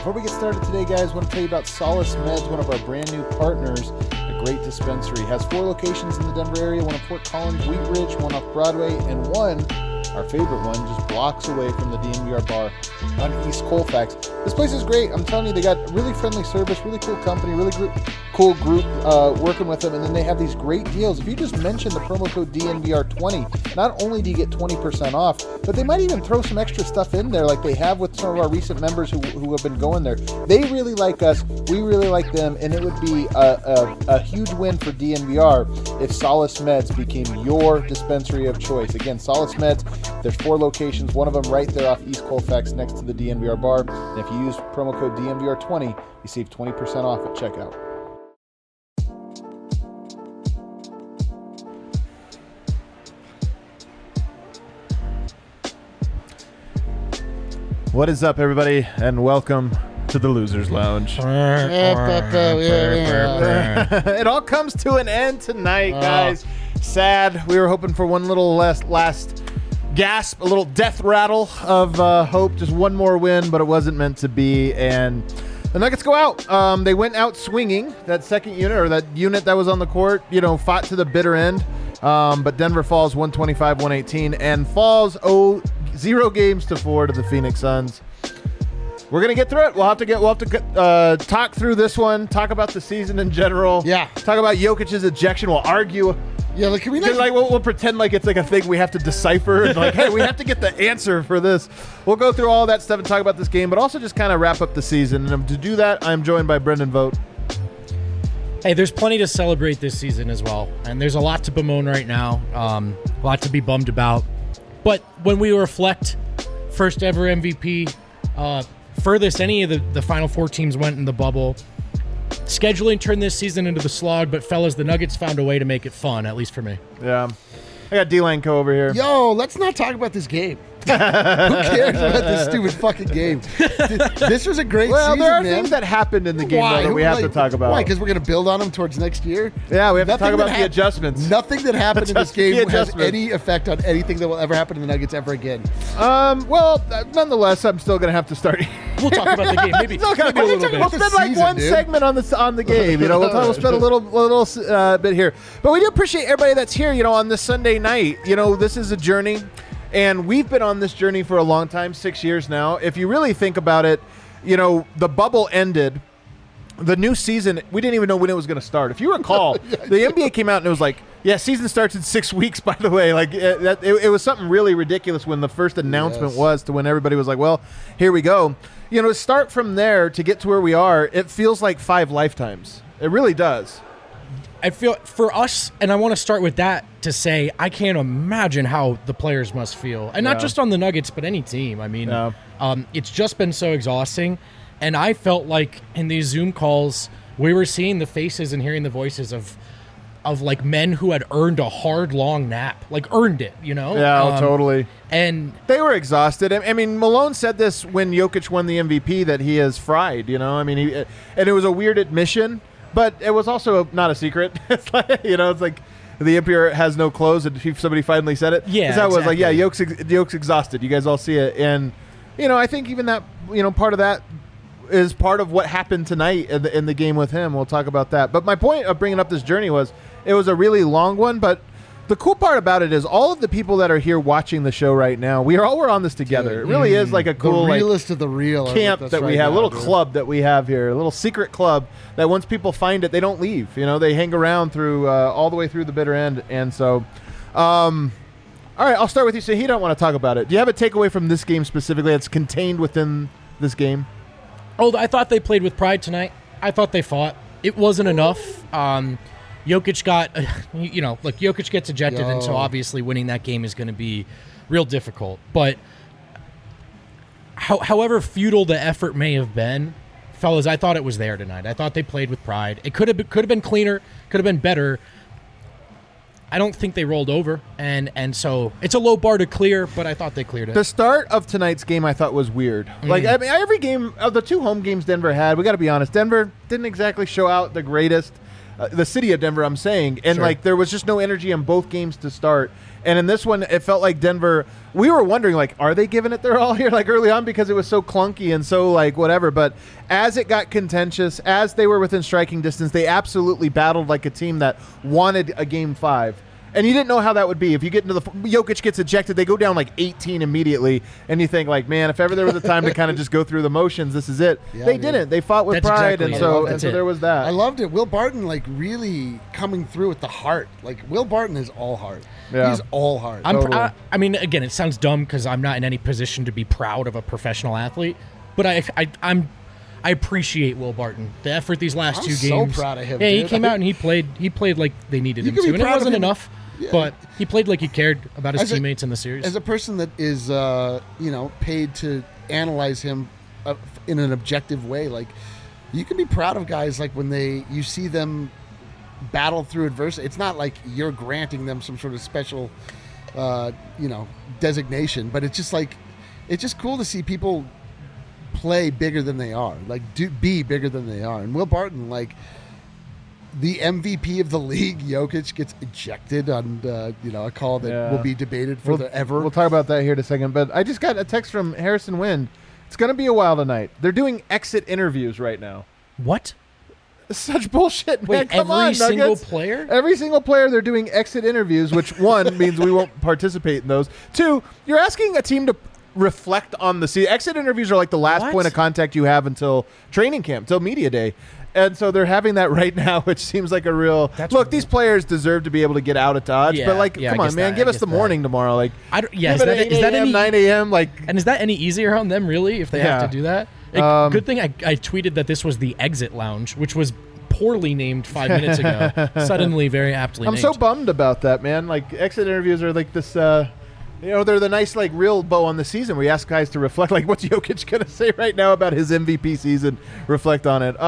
Before we get started today, guys, I want to tell you about Solace Meds, one of our brand new partners. A great dispensary. It has 4 locations in the Denver area, one in Fort Collins, Wheat Ridge, one off Broadway, and one, our favorite one, just blocks away from the DNVR bar on East Colfax. This place is great. I'm telling you, they got really friendly service, really cool company, really cool group working with them, and then they have these great deals. If you just mention the promo code DNVR20, not only do you get 20% off, but they might even throw some extra stuff in there like they have with some of our recent members who have been going there. They really like us, we really like them, and it would be a huge win for DNVR if Solace Meds became your dispensary of choice. Again, Solace Meds, there's 4 locations, one of them right there off East Colfax next to the DNVR bar, and if you use promo code DNVR20, you save 20% off at checkout. What is up, everybody, and welcome to the Losers Lounge. It all comes to an end tonight, guys. Sad. We were hoping for one little last gasp, a little death rattle of hope, just one more win, but it wasn't meant to be, and the Nuggets go out. They went out swinging. That second unit, or that unit that was on the court, fought to the bitter end, but Denver falls 125-118 and falls 0 games to 4 to the Phoenix Suns. We're gonna get through it. We'll have to talk through this one. Talk about the season in general. Yeah. Talk about Jokic's ejection. We'll argue. Yeah, like can we we'll pretend like it's like a thing we have to decipher and like, hey, we have to get the answer for this. We'll go through all that stuff and talk about this game, but also just kind of wrap up the season. And to do that, I'm joined by Brendan Vogt. Hey, there's plenty to celebrate this season as well, and there's a lot to bemoan right now. A lot to be bummed about. But when we reflect, first ever MVP, furthest any of the Final Four teams went in the bubble. Scheduling turned this season into the slog, but fellas, the Nuggets found a way to make it fun, at least for me. Yeah. I got D-Line Co. over here. Yo, let's not talk about this game. Who cares about this stupid fucking game? This was a great season, Well, there are man. things that happened in the game though, that we have to talk about. Why? Because we're going to build on them towards next year? Yeah, we have to talk about the adjustments. Nothing that happened in this game has any effect on anything that will ever happen to the Nuggets ever again. Nonetheless, I'm still going to have to start. We'll talk about the game, maybe a little bit. We'll spend like one segment on the game. We'll spend a little bit here. But we do appreciate everybody that's here. On this Sunday night. This is a journey, and we've been on this journey for a long time, 6 years now. If you really think about it, the bubble ended. The new season, we didn't even know when it was going to start. If you recall, the NBA came out and it was like, season starts in 6 weeks, by the way. Like it was something really ridiculous when the first announcement was to when everybody was like, well, here we go. To start from there to get to where we are, it feels like 5 lifetimes. It really does. I feel for us, and I want to start with that to say I can't imagine how the players must feel. And not just on the Nuggets, but any team. I mean, it's just been so exhausting. And I felt like in these Zoom calls, we were seeing the faces and hearing the voices of like men who had earned a hard, long nap, like earned it, Yeah, totally. And they were exhausted. I mean, Malone said this when Jokic won the MVP, that he is fried, I mean, and it was a weird admission, but it was also not a secret. It's like, it's like the Emperor has no clothes, and somebody finally said it. Yeah, exactly. Was like, exactly. Jokic's exhausted. You guys all see it. And, I think even that, part of that is part of what happened tonight in the game with him. We'll talk about that. But my point of bringing up this journey was it was a really long one, but the cool part about it is all of the people that are here watching the show right now, we're on this together. It really is like a cool the realest of the real camp that we have, a little club that we have here, a little secret club that once people find it, they don't leave. They hang around through all the way through the bitter end. And so, all right, I'll start with you. So he don't want to talk about it. Do you have a takeaway from this game specifically that's contained within this game? Oh, I thought they played with pride tonight. I thought they fought. It wasn't enough. Jokic got, Jokic gets ejected, and so obviously winning that game is going to be real difficult. But however futile the effort may have been, fellas, I thought it was there tonight. I thought they played with pride. It could have been cleaner, could have been better. I don't think they rolled over, and so it's a low bar to clear, but I thought they cleared it. The start of tonight's game I thought was weird. Like, I mean, every game of the 2 home games Denver had, we got to be honest, Denver didn't exactly show out the greatest. the city of Denver, I'm saying. And, Sure. like, there was just no energy in both games to start. And in this one, it felt like Denver, we were wondering, like, are they giving it their all here, like, early on because it was so clunky and so, like, whatever. But as it got contentious, as they were within striking distance, they absolutely battled like a team that wanted a Game 5. And you didn't know how that would be. If you get into Jokic gets ejected, they go down like 18 immediately, and you think like, man, if ever there was a time to kind of just go through the motions, this is it. Yeah, they didn't. They fought with That's pride, exactly and it. so there was that. I loved it. Will Barton, like, really coming through with the heart. Like, Will Barton is all heart. Yeah. He's all heart. Totally. I mean, again, it sounds dumb because I'm not in any position to be proud of a professional athlete, but I appreciate Will Barton. The effort these last I'm two so games. proud of him, Yeah, he dude. came out and he played like they needed You him can be to, and it proud of wasn't him. enough. Yeah. But he played like he cared about his As a- teammates in the series. As a person that is, paid to analyze him in an objective way, like, you can be proud of guys like when you see them battle through adversity. It's not like you're granting them some sort of special, designation, but it's just like, it's just cool to see people play bigger than they are, like be bigger than they are. And Will Barton, like, the MVP of the league, Jokic, gets ejected on a call that will be debated forever. We'll talk about that here in a second. But I just got a text from Harrison Wind. It's going to be a while tonight. They're doing exit interviews right now. What? Such bullshit, man. Wait, Come every on, single Nuggets. player? Every single player, they're doing exit interviews, which, one, means we won't participate in those. Two, you're asking a team to reflect on the season. Exit interviews are like the last What? point of contact you have until training camp, until media day. And so they're having that right now, which seems like a real look. These players deserve to be able to get out of Dodge, Yeah, but like, yeah, come I on, guess man, that, give I us the guess morning tomorrow. Like, Yeah, give it is that 8 a.m., any 9 a.m. Like, And is that any easier on them, really, if they have Yeah. to do that? Good thing I tweeted that this was the exit lounge, which was poorly named 5 minutes ago. Suddenly, very aptly I'm named. so bummed about that, man. Like, exit interviews are like this. They're the nice, like, real bow on the season where you ask guys to reflect. Like, what's Jokic gonna say right now about his MVP season? Reflect on it.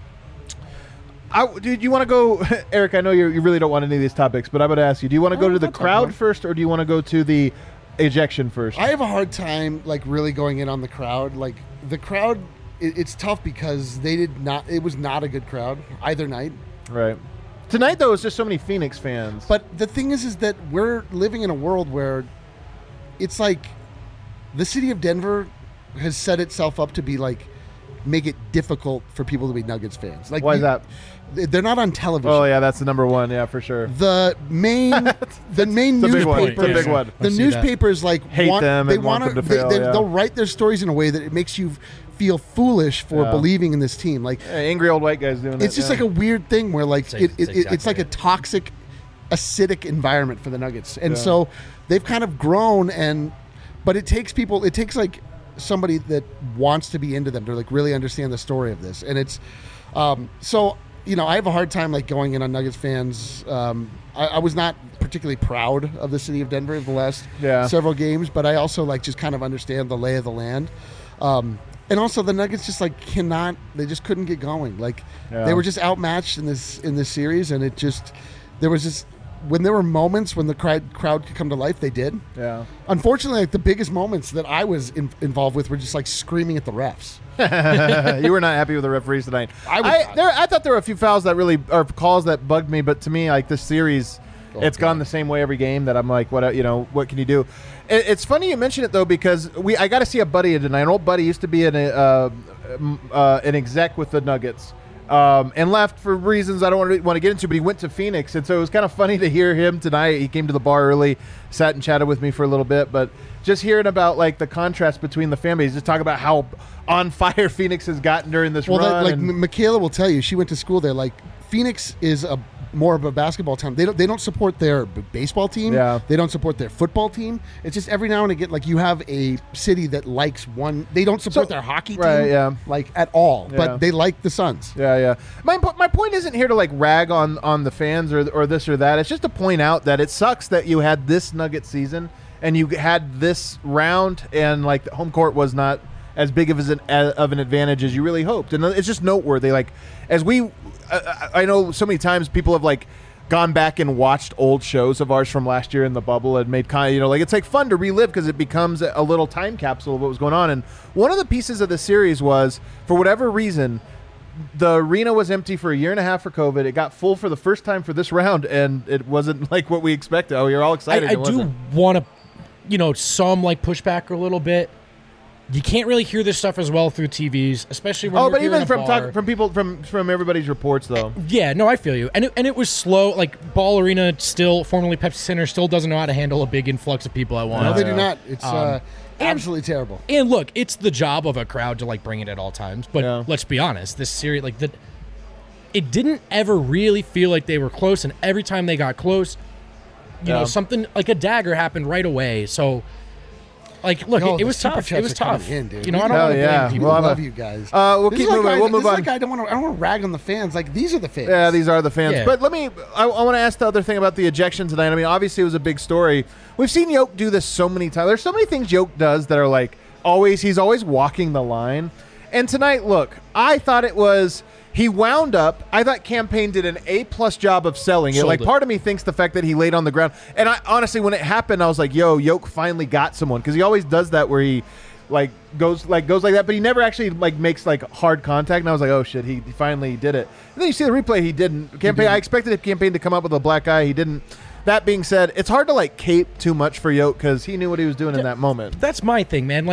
Dude, you want to go, Eric? I know you really don't want any of these topics, but I'm going to ask you: do you want to go to the crowd first, or do you want to go to the ejection first? I have a hard time, like, really going in on the crowd. Like, the crowd, it's tough because it was not a good crowd either night. Right. Tonight, though, it's just so many Phoenix fans. But the thing is that we're living in a world where it's like the city of Denver has set itself up to be like, make it difficult for people to be Nuggets fans. Like, why is that? They're not on television. Oh yeah, that's the number one. Yeah, for sure. The main big one. newspaper, It's a big one. the newspapers like Hate them and want them to fail, yeah. They'll write their stories in a way that it makes you feel foolish for believing in this team. Like, angry old white guys doing it. it's just like a weird thing where like it's exactly like a it. toxic, acidic environment for the Nuggets, and so they've kind of grown. But it takes like somebody that wants to be into them to like really understand the story of this, and it's so. I have a hard time like going in on Nuggets fans. I was not particularly proud of the city of Denver the last several games, but I also like just kind of understand the lay of the land. And also the Nuggets just like they just couldn't get going. Like they were just outmatched in this series, and when there were moments when the crowd could come to life, they did. Yeah. Unfortunately, like the biggest moments that I was involved with were just like screaming at the refs. You were not happy with the referees tonight. I thought there were a few fouls that really, or calls that bugged me, but to me, like this series, it's gone the same way every game that I'm like, what can you do? It's funny you mention it though, because I got to see a buddy tonight. An old buddy used to be an exec with the Nuggets. And left for reasons I don't want to get into, but he went to Phoenix, and so it was kind of funny to hear him tonight. He came to the bar early, sat and chatted with me for a little bit, but just hearing about like the contrast between the fan base, just talk about how on fire Phoenix has gotten during this run. Michaela will tell you, she went to school there. Like Phoenix is more of a basketball town. They don't support their baseball team. Yeah. They don't support their football team. It's just every now and again, like you have a city that likes one. They don't support their hockey team, right, yeah. like at all, Yeah. but they like the Suns. Yeah. My point isn't here to like rag on the fans or this or that. It's just to point out that it sucks that you had this Nugget season and you had this round, and like the home court was not as big of an advantage as you really hoped. And it's just noteworthy. Like as I know so many times people have like gone back and watched old shows of ours from last year in the bubble and made kind of, like it's like fun to relive because it becomes a little time capsule of what was going on. And one of the pieces of the series was, for whatever reason, the arena was empty for a year and a half for COVID. It got full for the first time for this round, and it wasn't like what we expected. Oh, you're all excited. I do want to, some like pushback a little bit. You can't really hear this stuff as well through TVs, especially when but even from people from everybody's reports though. Yeah, no, I feel you. And it was slow. Like Ball Arena, still formerly Pepsi Center, still doesn't know how to handle a big influx of people at once. No, they do not. It's absolutely terrible. And look, it's the job of a crowd to like bring it at all times. But let's be honest, this series, it didn't ever really feel like they were close. And every time they got close, something like a dagger happened right away. So. Like, look, it was tough. It was tough. I don't want to blame people. I love you guys. We'll keep moving. We'll move on. I don't want to rag on the fans. Like, these are the fans. Yeah, these are the fans. Yeah. But I want to ask the other thing about the ejection tonight. I mean, obviously it was a big story. We've seen Yoke do this so many times. There's so many things Yoke does that are like he's always walking the line. And tonight, look, I thought it was. He wound up. I thought Campaign did an A+ job of selling it. Like, part of me thinks the fact that he laid on the ground. And I honestly, when it happened, I was like, yo, Yoke finally got someone. Because he always does that where he goes like that. But he never actually makes hard contact. And I was like, oh, shit, he finally did it. And then you see the replay. He didn't. I expected Campaign to come up with a black eye. He didn't. That being said, it's hard to cape too much for Yoke because he knew what he was doing in that moment. That's my thing, man.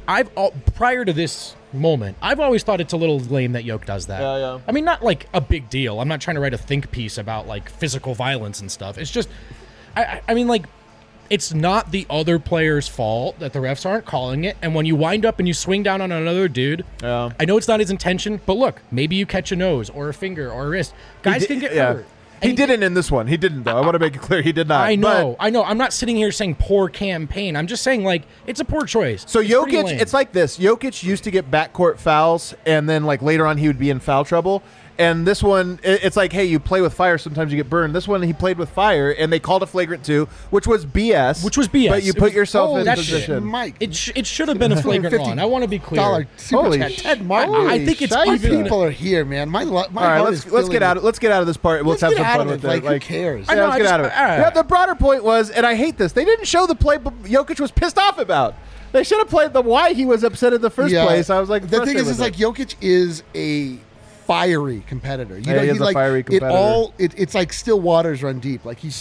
Prior to this moment, I've always thought it's a little lame that Yoke does that. Yeah. I mean, not a big deal. I'm not trying to write a think piece about physical violence and stuff. It's just, I mean, it's not the other player's fault that the refs aren't calling it. And when you wind up and you swing down on another dude, I know it's not his intention, but look, maybe you catch a nose or a finger or a wrist. Guys can get hurt. He didn't in this one. He didn't, though. I want to make it clear he did not. I know. I'm not sitting here saying poor Campaign. I'm just saying, it's a poor choice. So Jokic, it's like this. Jokic used to get backcourt fouls, and then, later on he would be in foul trouble. And this one, it's like, hey, you play with fire, sometimes you get burned. This one, he played with fire, and they called a flagrant 2, which was BS. But you put yourself in position. Mike. It should have been a flagrant 1. I want to be clear. Super chat. Ted Martin. I think it's even. People are here, man. My all right, let's get out of this part. Let's have some fun with it. Who cares? Yeah, let's get out of it. Yeah, the broader point was, and I hate this, they didn't show the play Jokic was pissed off about. They should have played the why he was upset in the first place. I was like, the thing is, Jokic is a fiery competitor. He is a fiery competitor. It's like still waters run deep. He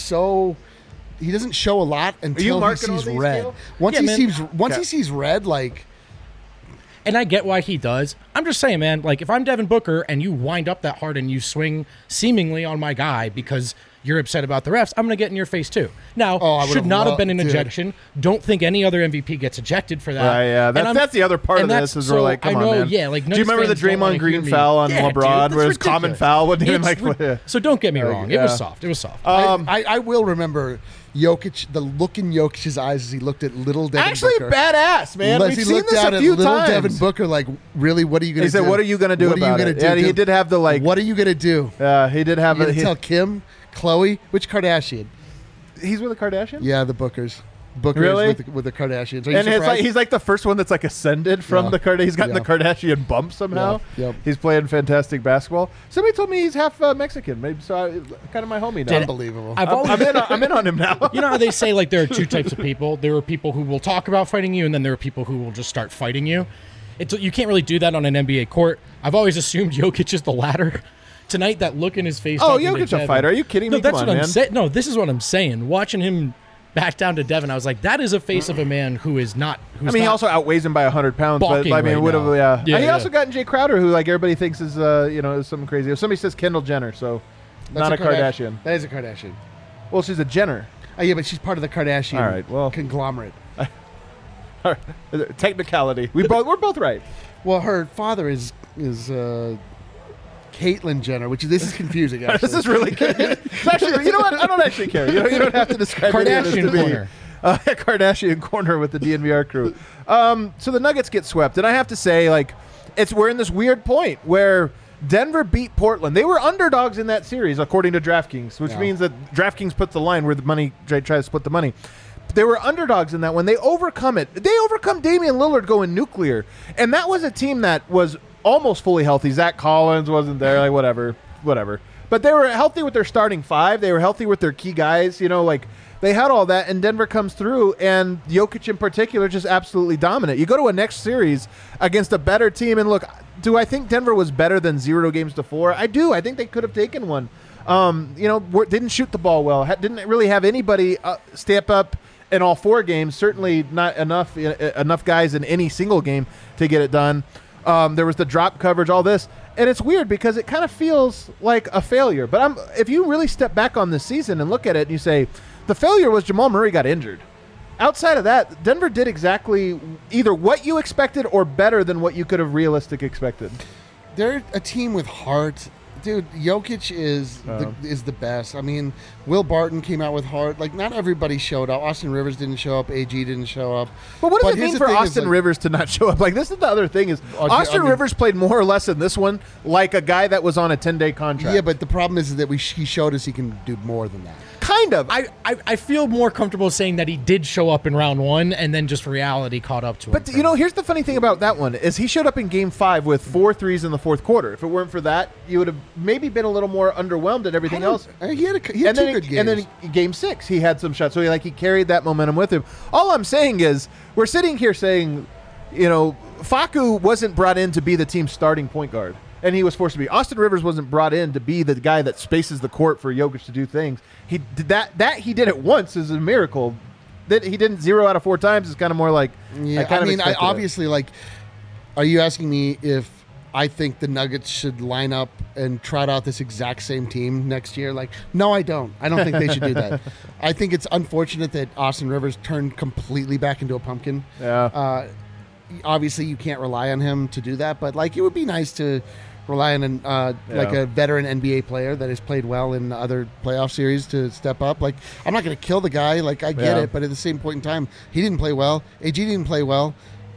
doesn't show a lot until he sees red. Once he sees red, and I get why he does. I'm just saying, man, if I'm Devin Booker and you wind up that hard and you swing seemingly on my guy because you're upset about the refs, I'm going to get in your face too. Now, should not have been an ejection. Don't think any other MVP gets ejected for that. Yeah, that's the other part of this is we're come on, man. Yeah, do you remember the Draymond Green foul on LeBron where it was common foul? Wasn't even So don't get me wrong. It was soft. I will remember Jokic, the look in Jokic's eyes as he looked at little Devin Booker. Actually, badass, man. We've seen this a few times. Devin Booker, really, what are you going to do? He said, what are you going to do about it? Yeah, he did have the what are you going to do? He did have it. Tell Kim, Khloe, which Kardashian? He's with a Kardashian? Yeah, the Bookers. Booker really? with the Kardashians. And he's the first one that's ascended from the Kardashian. He's gotten the Kardashian bump somehow. Yep. He's playing fantastic basketball. Somebody told me he's half Mexican. Maybe kind of my homie now. Unbelievable. I'm in on him now. You know how they say there are two types of people. There are people who will talk about fighting you, and then there are people who will just start fighting you. You can't really do that on an NBA court. I've always assumed Jokic is the latter. Tonight, that look in his face. Oh, Jokic's a fighter. Are you kidding me? No, that's what I'm saying. No, this is what I'm saying. Watching him back down to Devin, I was like, that is a face of a man who is not. He also outweighs him by 100 pounds. But he also got Jay Crowder, who everybody thinks is is something crazy. If somebody says Kendall Jenner, so that's not a Kardashian. That is a Kardashian. Well, she's a Jenner. Yeah, but she's part of the Kardashian conglomerate. Technicality. We're both right. Well, her father is Caitlyn Jenner, this is confusing. Actually, this is really confusing. Actually, you know what? I don't actually care. You don't have to describe Kardashian corner. Kardashian corner with the DNVR crew. So the Nuggets get swept, and I have to say, we're in this weird point where Denver beat Portland. They were underdogs in that series, according to DraftKings, which means that DraftKings puts the line where the money tries to split the money. They were underdogs in that one. They overcome it. They overcome Damian Lillard going nuclear, and that was a team that was almost fully healthy. Zach Collins wasn't there, whatever. But they were healthy with their starting five. They were healthy with their key guys. They had all that, and Denver comes through, and Jokic in particular just absolutely dominant. You go to a next series against a better team, and look, do I think Denver was better than 0-4? I do. I think they could have taken one. Didn't shoot the ball well. Didn't really have anybody step up in all 4 games. Certainly not enough guys in any single game to get it done. There was the drop coverage, all this. And it's weird because it kind of feels like a failure. But if you really step back on this season and look at it and you say, the failure was Jamal Murray got injured. Outside of that, Denver did exactly either what you expected or better than what you could have realistically expected. They're a team with heart. Dude, Jokic is the best. I mean, Will Barton came out with heart. Like, not everybody showed up. Austin Rivers didn't show up. AG didn't show up. But what does it mean for Austin Rivers to not show up? Like, this is the other thing is Austin Rivers played more or less in this one like a guy that was on a 10-day contract. Yeah, but the problem is that he showed us he can do more than that. Kind of. I feel more comfortable saying that he did show up in round 1 and then just reality caught up to him. But, here's the funny thing about that one is he showed up in Game 5 with 4 threes in the fourth quarter. If it weren't for that, you would have maybe been a little more underwhelmed at everything else. He had 2 good games. And then Game 6, he had some shots. So he carried that momentum with him. All I'm saying is we're sitting here saying, Facu wasn't brought in to be the team's starting point guard. And he was forced to be. Austin Rivers wasn't brought in to be the guy that spaces the court for Jokic to do things. He did that he did it once is a miracle. That he didn't 0 out of 4 times is kind of more like I obviously like. Are you asking me if I think the Nuggets should line up and trot out this exact same team next year? Like, no, I don't. I don't think they should do that. I think it's unfortunate that Austin Rivers turned completely back into a pumpkin. Yeah. Obviously, you can't rely on him to do that, but like it would be nice to rely on like a veteran NBA player that has played well in other playoff series to step up. Like, I'm not going to kill the guy. Like, I get it, but at the same point in time, he didn't play well. AG didn't play well.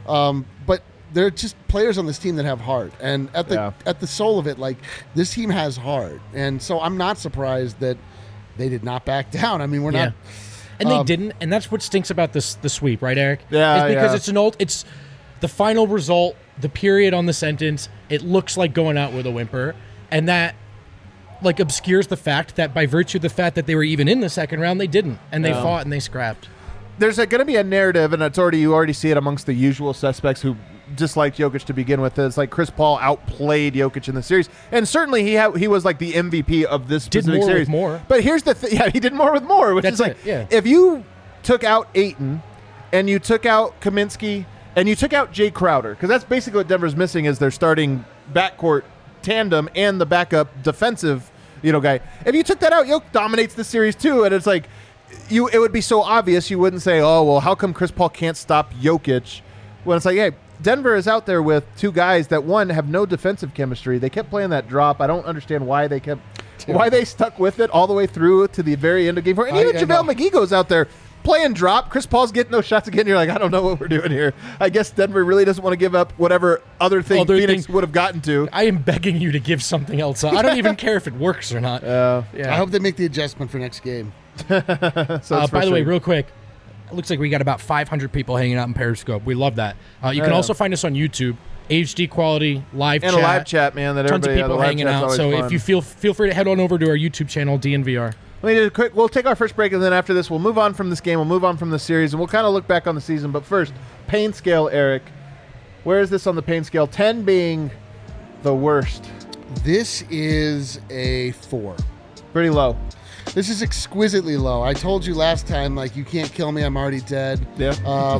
But they're just players on this team that have heart, and at the soul of it, like this team has heart, and so I'm not surprised that they did not back down. I mean, we're not, and they didn't, and that's what stinks about the sweep, right, Eric? Yeah, it's because it's the final result, the period on the sentence. It looks like going out with a whimper, and that like obscures the fact that by virtue of the fact that they were even in the second round, they didn't, and they fought and they scrapped. There's going to be a narrative, and you already see it amongst the usual suspects who disliked Jokic to begin with. It's like Chris Paul outplayed Jokic in the series, and certainly he was like the MVP of this specific series. With more. But here's the thing: he did more with more, which is like if you took out Ayton and you took out Kaminsky and you took out Jay Crowder, because that's basically what Denver's missing is their starting backcourt tandem and the backup defensive guy. If you took that out, Jokic dominates the series too, and it's like it would be so obvious you wouldn't say, oh well, how come Chris Paul can't stop Jokic? When it's like, hey, Denver is out there with 2 guys that, one, have no defensive chemistry. They kept playing that drop. I don't understand why they stuck with it all the way through to the very end of Game 4. And even JaVale McGee goes out there playing drop. Chris Paul's getting those shots again. You're like, I don't know what we're doing here. I guess Denver really doesn't want to give up whatever other thing Phoenix would have gotten to. I am begging you to give something else up. I don't even care if it works or not. I hope they make the adjustment for next game. By the way, real quick, it looks like we got about 500 people hanging out in Periscope. We love that. You can also find us on YouTube, HD quality live chat. And a live chat, man. That tons of people hanging out. So fun. If you feel free to head on over to our YouTube channel, DNVR. Let me do a quick. We'll take our first break, and then after this, we'll move on from this game. We'll move on from the series, and we'll kind of look back on the season. But first, pain scale, Eric. Where is this on the pain scale? 10 being the worst. This is a 4. Pretty low. This is exquisitely low. I told you last time, like, you can't kill me, I'm already dead. Yeah.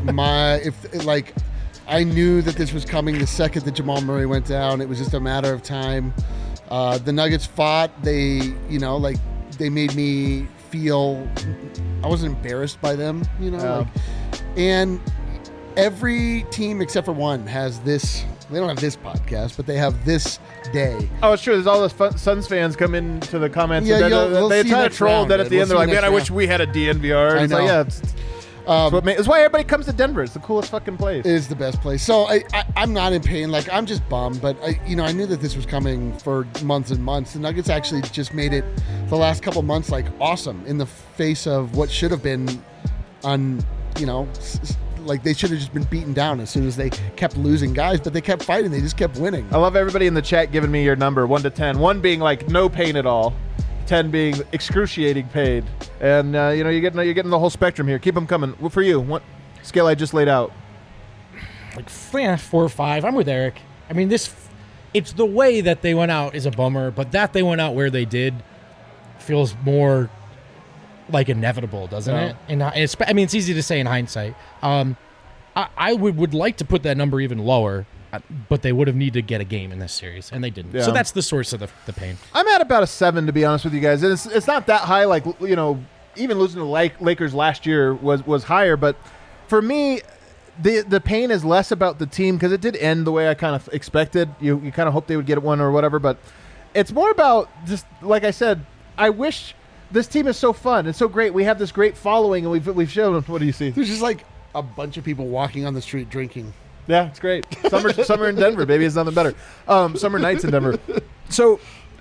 I knew that this was coming the second that Jamal Murray went down. It was just a matter of time. The Nuggets fought. They made me feel I wasn't embarrassed by them, and every team except for one has this. They don't have this podcast, but they have this day. Oh, it's true. There's all those Suns fans come into the comments. Yeah, they try to troll that at the end. They're like, man, I wish we had a DNVR. I know. It's why everybody comes to Denver. It's the coolest fucking place. It is the best place. So I'm not in pain. Like, I'm just bummed. But I knew that this was coming for months and months. The Nuggets actually just made it the last couple months like awesome in the face of what should have been like they should have just been beaten down as soon as they kept losing guys, but they kept fighting. They just kept winning. I love everybody in the chat giving me your number, 1 to 10. 1 being like no pain at all, 10 being excruciating pain, and you're getting the whole spectrum here. Keep them coming. Well, for you, what scale I just laid out? Like 4 or 5. I'm with Eric. I mean, it's the way that they went out is a bummer, but that they went out where they did feels more like inevitable, doesn't it? And it's easy to say in hindsight. I would like to put that number even lower, but they would have needed to get a game in this series, and they didn't. Yeah. So that's the source of the pain. I'm at about a 7, to be honest with you guys. And it's not that high. Like, even losing to the Lakers last year was higher, but for me, the pain is less about the team because it did end the way I kind of expected. You kind of hope they would get one or whatever, but it's more about just, like I said, I wish this team is so fun and so great. We have this great following, and we've shown them. What do you see? There's just like a bunch of people walking on the street drinking. Yeah, it's great. Summer in Denver, baby. It's nothing better. Summer nights in Denver. So,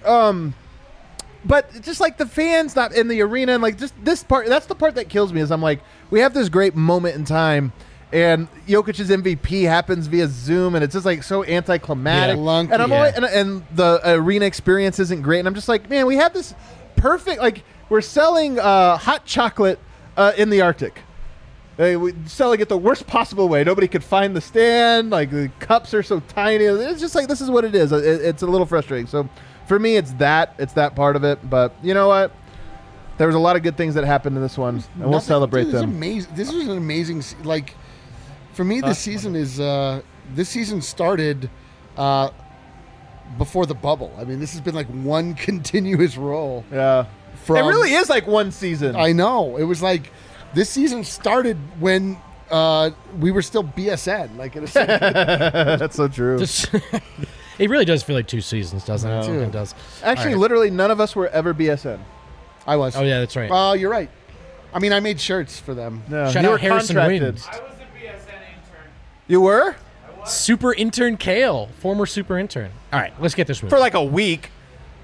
but just like the fans not in the arena, and like just this part, that's the part that kills me. Is I'm like, we have this great moment in time. And Jokic's MVP happens via Zoom, and it's just like so anticlimactic. Yeah, and and the arena experience isn't great. And I'm just like, man, we have this perfect. Like we're selling hot chocolate in the Arctic. We're selling it the worst possible way. Nobody could find the stand. Like the cups are so tiny. It's just like this is what it is. It's a little frustrating. So for me, it's that part of it. But you know what? There was a lot of good things that happened in this one, and we'll celebrate them. Amazing. This was an amazing like. For me, this season started before the bubble. I mean, this has been like one continuous roll. Yeah, it really is like one season. I know. It was like this season started when we were still BSN. Like that's so true. It really does feel like 2 seasons, doesn't it? It does. Actually, literally, none of us were ever BSN. I was. Oh yeah, that's right. Oh, you're right. I mean, I made shirts for them. No, shout out Harrison Wind. You were? Super intern Kale, former super intern. All right, let's get this moving. For like a week.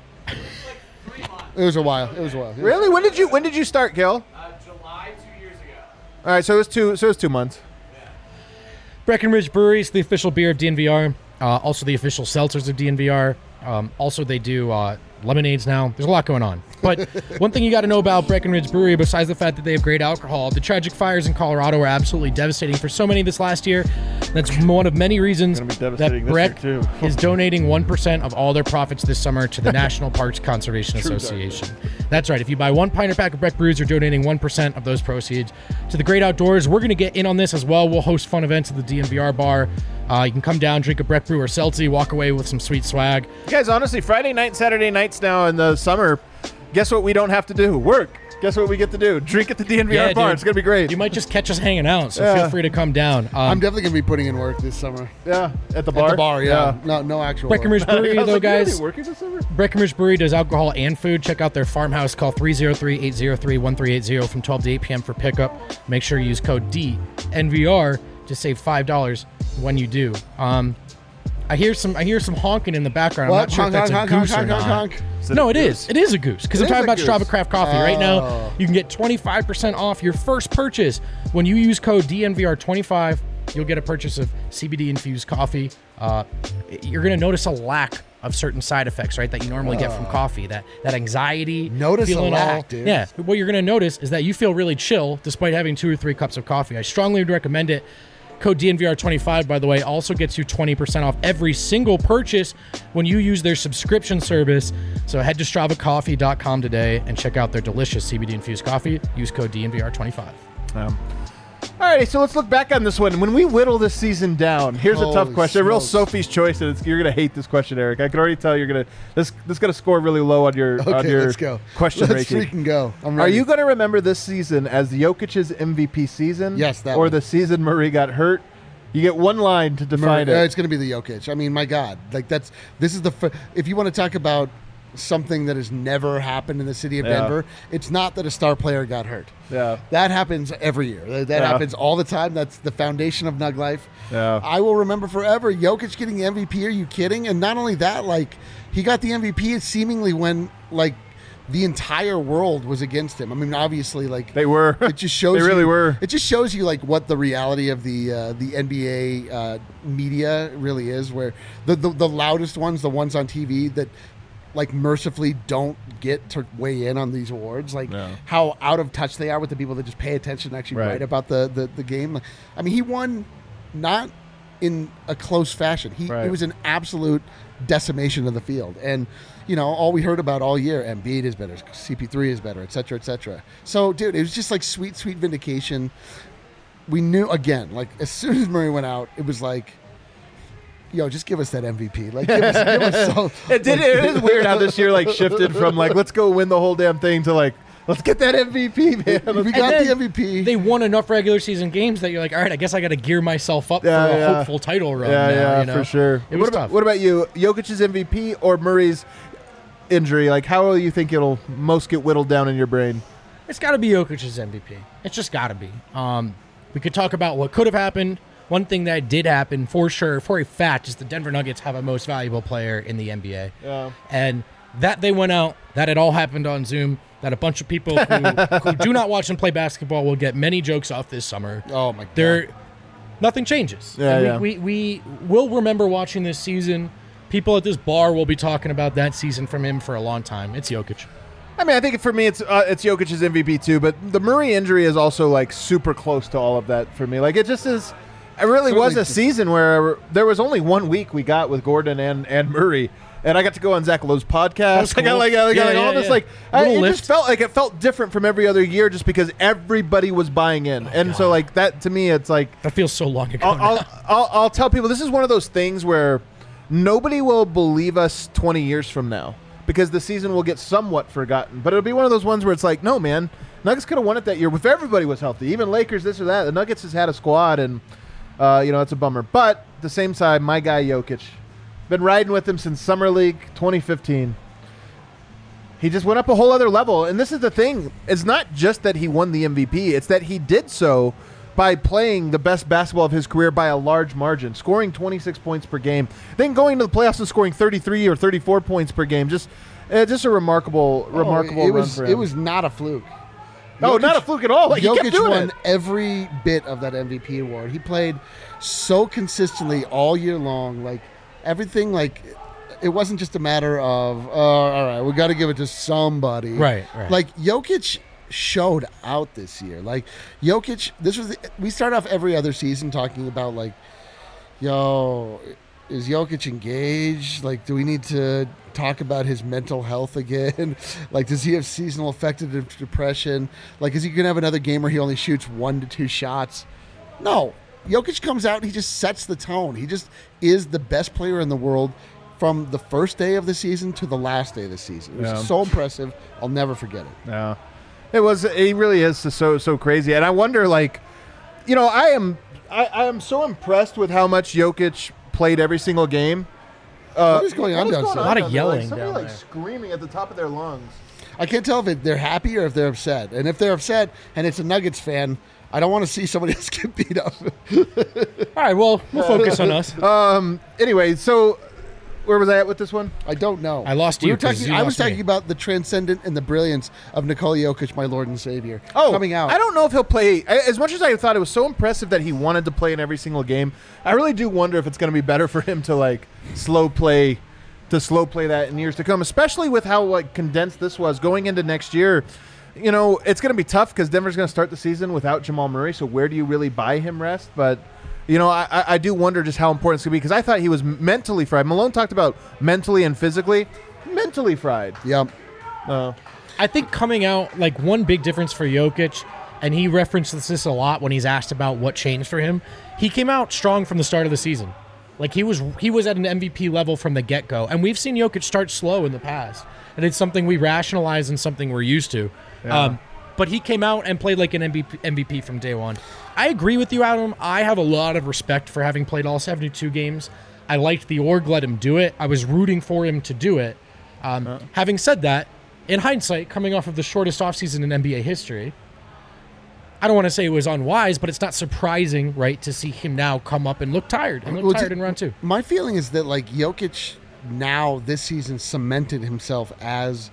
It was a while. Yeah. Really? When did you start, Kale? July 2 years ago. All right, so it was 2 months. Yeah. Breckenridge Brewery is the official beer of DNVR. Also the official seltzers of DNVR. Also they do lemonades now. There's a lot going on. But one thing you got to know about Breckenridge Brewery, besides the fact that they have great alcohol, the tragic fires in Colorado were absolutely devastating for so many this last year. That's one of many reasons that Breck is donating 1% of all their profits this summer to the National Parks Conservation Association. That's right. If you buy 1 pint or pack of Breck brews, you're donating 1% of those proceeds to the great outdoors. We're going to get in on this as well. We'll host fun events at the DNVR bar. You can come down, drink a Breck brew or seltzy, walk away with some sweet swag. Guys, honestly, Friday night, Saturday nights now in the summer, guess what we don't have to do? Work. Guess what we get to do? Drink at the DNVR bar. Dude, it's going to be great. You might just catch us hanging out, so feel free to come down. I'm definitely going to be putting in work this summer. Yeah, at the bar? At the bar, yeah. No actual Breckenridge Brewery, though, guys. Working this summer? Breckenridge Brewery does alcohol and food. Check out their farmhouse. Call 303-803-1380 from 12 to 8 p.m. for pickup. Make sure you use code DNVR to save $5 when you do. I hear some honking in the background. I'm not sure if that's a goose or not. No, it is. It is a goose because I'm talking about Strava Craft Coffee. Right now, you can get 25% off your first purchase when you use code DNVR25. You'll get a purchase of CBD-infused coffee. You're going to notice a lack of certain side effects, right, that you normally get from coffee. That anxiety. Notice a lack, dude. Yeah. What you're going to notice is that you feel really chill despite having 2 or 3 cups of coffee. I strongly recommend it. Code DNVR25, by the way, also gets you 20% off every single purchase when you use their subscription service. So head to StravaCoffee.com today and check out their delicious CBD-infused coffee. Use code DNVR25. All right, so let's look back on this one. When we whittle this season down, here's a tough question. A real Sophie's choice. And you're going to hate this question, Eric. I can already tell you're going to this going to score really low on your let's go. Question let's ranking. Let's freaking go. I'm ready. Are you going to remember this season as Jokic's MVP season? Yes, that or one. The season Murray got hurt? You get one line to define it. It's going to be the Jokic. I mean, my God. Like this is if you want to talk about something that has never happened in the city of Denver, it's not that a star player got hurt. Yeah. That happens every year. That happens all the time. That's the foundation of Nug life. Yeah. I will remember forever Jokic getting the MVP. Are you kidding? And not only that, like he got the MVP seemingly when like the entire world was against him. I mean, obviously, like they were. It just shows. They really were. It just shows you like what the reality of the NBA media really is. Where the loudest ones, the ones on TV that like mercifully don't get to weigh in on these awards, like how out of touch they are with the people that just pay attention and actually write about the game. I mean, he won not in a close fashion. It was an absolute decimation of the field. And, you know, all we heard about all year, Embiid is better, CP3 is better, et cetera, et cetera. So, dude, it was just like sweet vindication. We knew, again, like as soon as Murray went out, it was like, yo, just give us that MVP. Like, give us some. It is weird how this year like shifted from like let's go win the whole damn thing to like let's get that MVP, man. We got the MVP. They won enough regular season games that you're like, all right, I guess I got to gear myself up for a hopeful title run. Yeah, you know? For sure. It was tough. What about you? Jokic's MVP or Murray's injury? Like, how do you think it'll most get whittled down in your brain? It's got to be Jokic's MVP. It's just got to be. We could talk about what could have happened. One thing that did happen for sure, for a fact, is the Denver Nuggets have a most valuable player in the NBA. Yeah. And that they went out, that it all happened on Zoom, that a bunch of people who do not watch and play basketball will get many jokes off this summer. Oh, my God. Nothing changes. Yeah, we will remember watching this season. People at this bar will be talking about that season from him for a long time. It's Jokic. I mean, I think for me, it's Jokic's MVP too, but the Murray injury is also like super close to all of that for me. Like, it just is. It really was a season where there was only 1 week we got with Gordon and Murray, and I got to go on Zach Lowe's podcast. Cool. I got all this like it just felt like it felt different from every other year, just because everybody was buying in, so like that to me, it's like that feels so long ago. I'll tell people this is one of those things where nobody will believe us 20 years from now because the season will get somewhat forgotten, but it'll be one of those ones where it's like, no man, Nuggets could have won it that year if everybody was healthy, even Lakers, this or that. The Nuggets has had a squad and. It's a bummer. But at the same side, my guy Jokic, been riding with him since Summer League 2015. He just went up a whole other level. And this is the thing. It's not just that he won the MVP. It's that he did so by playing the best basketball of his career by a large margin, scoring 26 points per game, then going to the playoffs and scoring 33 or 34 points per game. Just a remarkable run for him. It was not a fluke. No, not a fluke at all. Like, Jokic won every bit of that MVP award. He played so consistently all year long. Like, everything, like, it wasn't just a matter of, all right, we got to give it to somebody. Right. Like, Jokic showed out this year. Like, Jokic, we start off every other season talking about, like, yo, is Jokic engaged? Like, do we need to talk about his mental health again? Like, does he have seasonal affective depression? Like, is he going to have another game where he only shoots 1 to 2 shots? No. Jokic comes out and he just sets the tone. He just is the best player in the world from the first day of the season to the last day of the season. It was so impressive. I'll never forget it. Yeah. It was. He really is so crazy. And I wonder, like, I am so impressed with how much Jokic played every single game. What is going on downstairs? A lot of yelling. Somebody down there. Screaming at the top of their lungs. I can't tell if they're happy or if they're upset. And if they're upset and it's a Nuggets fan, I don't want to see somebody else get beat up. All right, well, we'll focus on us. Anyway, so where was I at with this one? I don't know. I lost you. I was talking about the transcendent and the brilliance of Nikola Jokic, my Lord and Savior, coming out. I don't know if he'll play. As much as I thought it was so impressive that he wanted to play in every single game, I really do wonder if it's going to be better for him to like slow play that in years to come, especially with how like condensed this was going into next year. It's going to be tough because Denver's going to start the season without Jamal Murray. So where do you really buy him rest? But I do wonder just how important it's going to be because I thought he was mentally fried. Malone talked about mentally and physically. Mentally fried. Yep. I think coming out, like, one big difference for Jokic, and he references this a lot when he's asked about what changed for him, he came out strong from the start of the season. Like, he was at an MVP level from the get-go. And we've seen Jokic start slow in the past. And it's something we rationalize and something we're used to. Yeah. But he came out and played like an MVP from day one. I agree with you, Adam. I have a lot of respect for having played all 72 games. I liked the org, let him do it. I was rooting for him to do it. Having said that, in hindsight, coming off of the shortest offseason in NBA history, I don't want to say it was unwise, but it's not surprising, right, to see him now come up and look tired in round 2. My feeling is that, like, Jokic now this season cemented himself as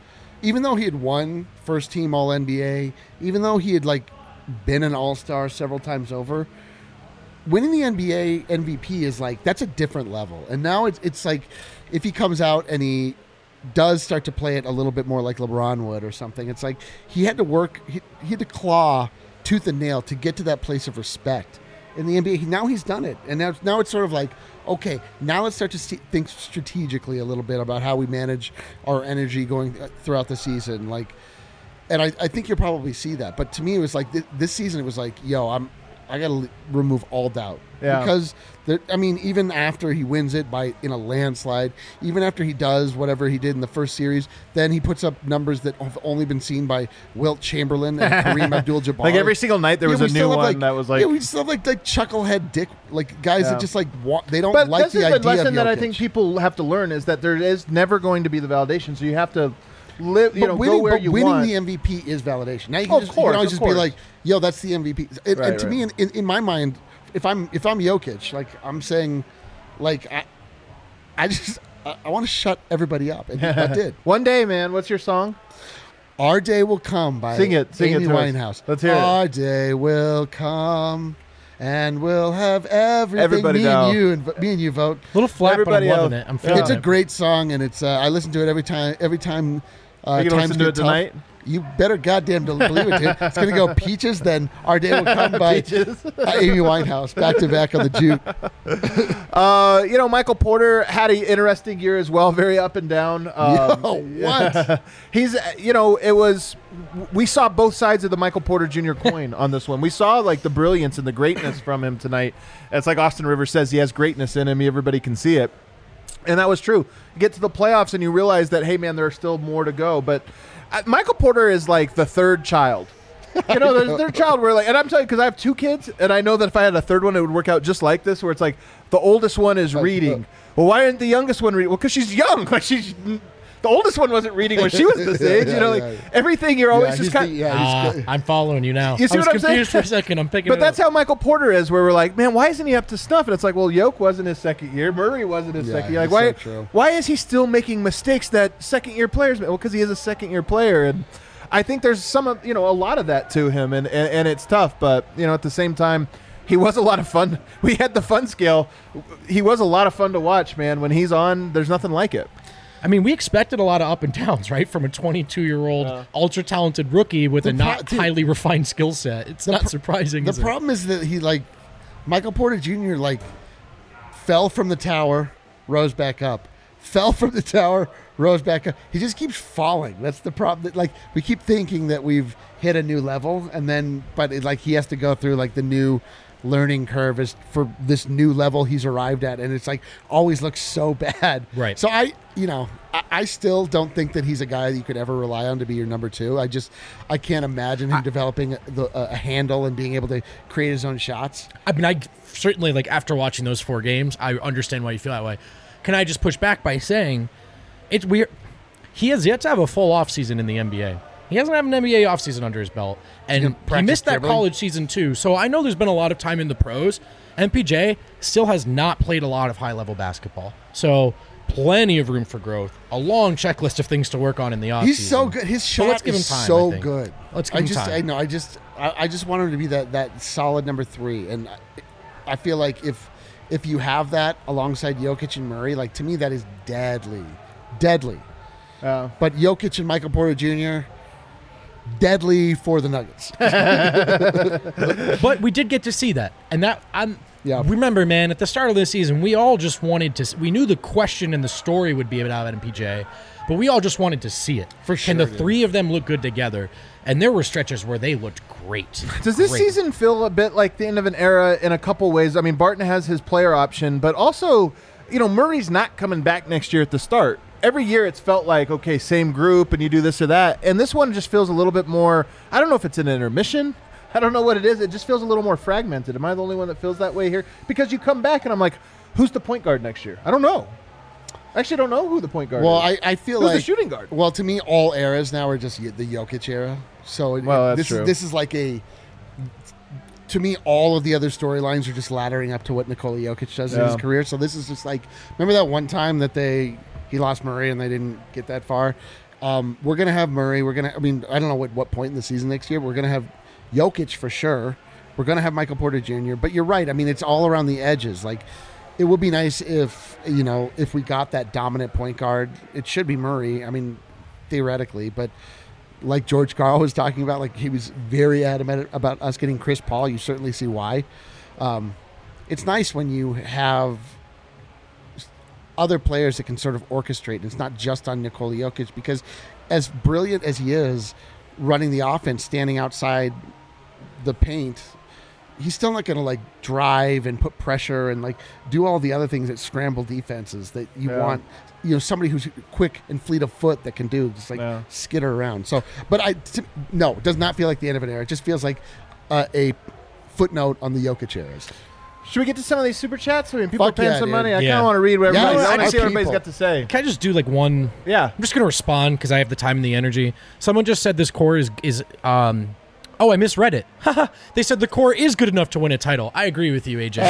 even though he had won first team All NBA, even though he had like been an All-Star several times over, winning the NBA MVP is like, that's a different level. And now it's like, if he comes out and he does start to play it a little bit more like LeBron would or something, it's like he had to work, he had to claw tooth and nail to get to that place of respect in the NBA. Now he's done it. And now it's sort of like, okay, now let's start to think strategically a little bit about how we manage our energy going throughout the season. Like, and I think you'll probably see that. But to me, it was like this season, it was like, yo, I got to remove all doubt. Yeah. Because, even after he wins it in a landslide, even after he does whatever he did in the first series, then he puts up numbers that have only been seen by Wilt Chamberlain and Kareem Abdul-Jabbar. Like every single night there was a new one that was like... Yeah, we still have like chucklehead dick, like guys that just like, they don't but like the idea of the lesson that I Jokic. think people have to learn is that there is never going to be the validation, so you have to live, go where you want. Winning the MVP is validation. Now you can, you can always just be like, yo, that's the MVP. And to me, in my mind, if I'm Jokic, like I'm saying, like I want to shut everybody up, and I did. One day, man. What's your song? Our Day Will Come by Amy Winehouse. Let's hear it. Our day will come, and we'll have everything. Me and you vote. A little flat, everybody but I'm loving it. I'm feeling It's a great song, and it's I listen to it every time. Are you gonna listen to it tonight? You better goddamn believe it, dude. It's going to go Peaches, then Our Day Will Come by Amy Winehouse, back to back on the juke. Michael Porter had an interesting year as well, very up and down. What? He's, we saw both sides of the Michael Porter Jr. coin on this one. We saw like the brilliance and the greatness from him tonight. It's like Austin Rivers says, he has greatness in him. Everybody can see it. And that was true. You get to the playoffs and you realize that, hey, man, there's still more to go. But Michael Porter is like the third child. There's their child where like, and I'm telling you, because I have two kids, and I know that if I had a third one, it would work out just like this, where it's like the oldest one is reading. Well, why isn't the youngest one reading? Well, because she's young. Like the oldest one wasn't reading when she was this age. Everything you're always just kind of. I'm following you now. You see what I'm saying? Confused for a second. I'm picking. But that's up. how Michael Porter is, where we're like, man, why isn't he up to snuff? And it's like, well, Yoke wasn't his second year. Murray wasn't his second year. Like, why is he still making mistakes that second year players make? Well, because he is a second year player, and I think there's a lot of that to him, and it's tough. But at the same time, he was a lot of fun. We had the fun scale. He was a lot of fun to watch, man. When he's on, there's nothing like it. I mean, we expected a lot of up and downs, right? From a 22-year-old ultra-talented rookie with a highly refined skill set. It's not surprising. The problem is that he, Michael Porter Jr., fell from the tower, rose back up. Fell from the tower, rose back up. He just keeps falling. That's the problem. We keep thinking that we've hit a new level, but he has to go through, the new learning curve is for this new level he's arrived at, and it's always looks so bad. Right. So I still don't think that he's a guy that you could ever rely on to be your number two. I can't imagine him developing a handle and being able to create his own shots. I mean, I certainly after watching those 4 games, I understand why you feel that way. Can I just push back by saying it's weird? He has yet to have a full offseason in the NBA. He hasn't had an NBA offseason under his belt. And he missed that college season too. So I know there's been a lot of time in the pros. MPJ still has not played a lot of high-level basketball. So plenty of room for growth. A long checklist of things to work on in the offseason. He's so good. His shot is so good. Let's give him time. I just want him to be that solid number 3. And I feel like if you have that alongside Jokic and Murray, to me that is deadly. Deadly. But Jokic and Michael Porter Jr., deadly for the Nuggets. But we did get to see that. And remember, man, at the start of this season, we all just wanted to – we knew the question and the story would be about MPJ, but we all just wanted to see it. For sure. Can the 3 of them look good together? And there were stretches where they looked great. Does this season feel a bit like the end of an era in a couple ways? I mean, Barton has his player option, but also, Murray's not coming back next year at the start. Every year it's felt like, okay, same group and you do this or that. And this one just feels a little bit more, I don't know if it's an intermission. I don't know what it is. It just feels a little more fragmented. Am I the only one that feels that way here? Because you come back and I'm like, who's the point guard next year? I don't know. I actually don't know who the point guard is. I feel who's the shooting guard? Well, to me, all eras now are just the Jokic era. So that's true. This is to me, all of the other storylines are just laddering up to what Nikola Jokic does in his career. So this is just remember that one time that he lost Murray and they didn't get that far? We're going to have Murray. I don't know what point in the season next year. We're going to have Jokic for sure. We're going to have Michael Porter Jr. But you're right. I mean, it's all around the edges. Like, it would be nice if we got that dominant point guard. It should be Murray. I mean, theoretically, but like George Karl was talking about, like he was very adamant about us getting Chris Paul. You certainly see why. It's nice when you have other players that can sort of orchestrate. It's not just on Nikola Jokic, because as brilliant as he is running the offense, standing outside the paint, he's still not going to like drive and put pressure and like do all the other things that scramble defenses that you want. Somebody who's quick and fleet of foot that can do just like skitter around. So, but no, it does not feel like the end of an era. It just feels like a footnote on the Jokic eras. Should we get to some of these super chats? I mean, people Fuck are paying yeah, some dude. money. I Yeah. kind of want to read what everybody's. Yes, I want to our see what everybody's people. got to say. Can I just do like one? Yeah. I'm just going to respond because I have the time and the energy. Someone just said this core is oh, I misread it. They said the core is good enough to win a title. I agree with you, AJ.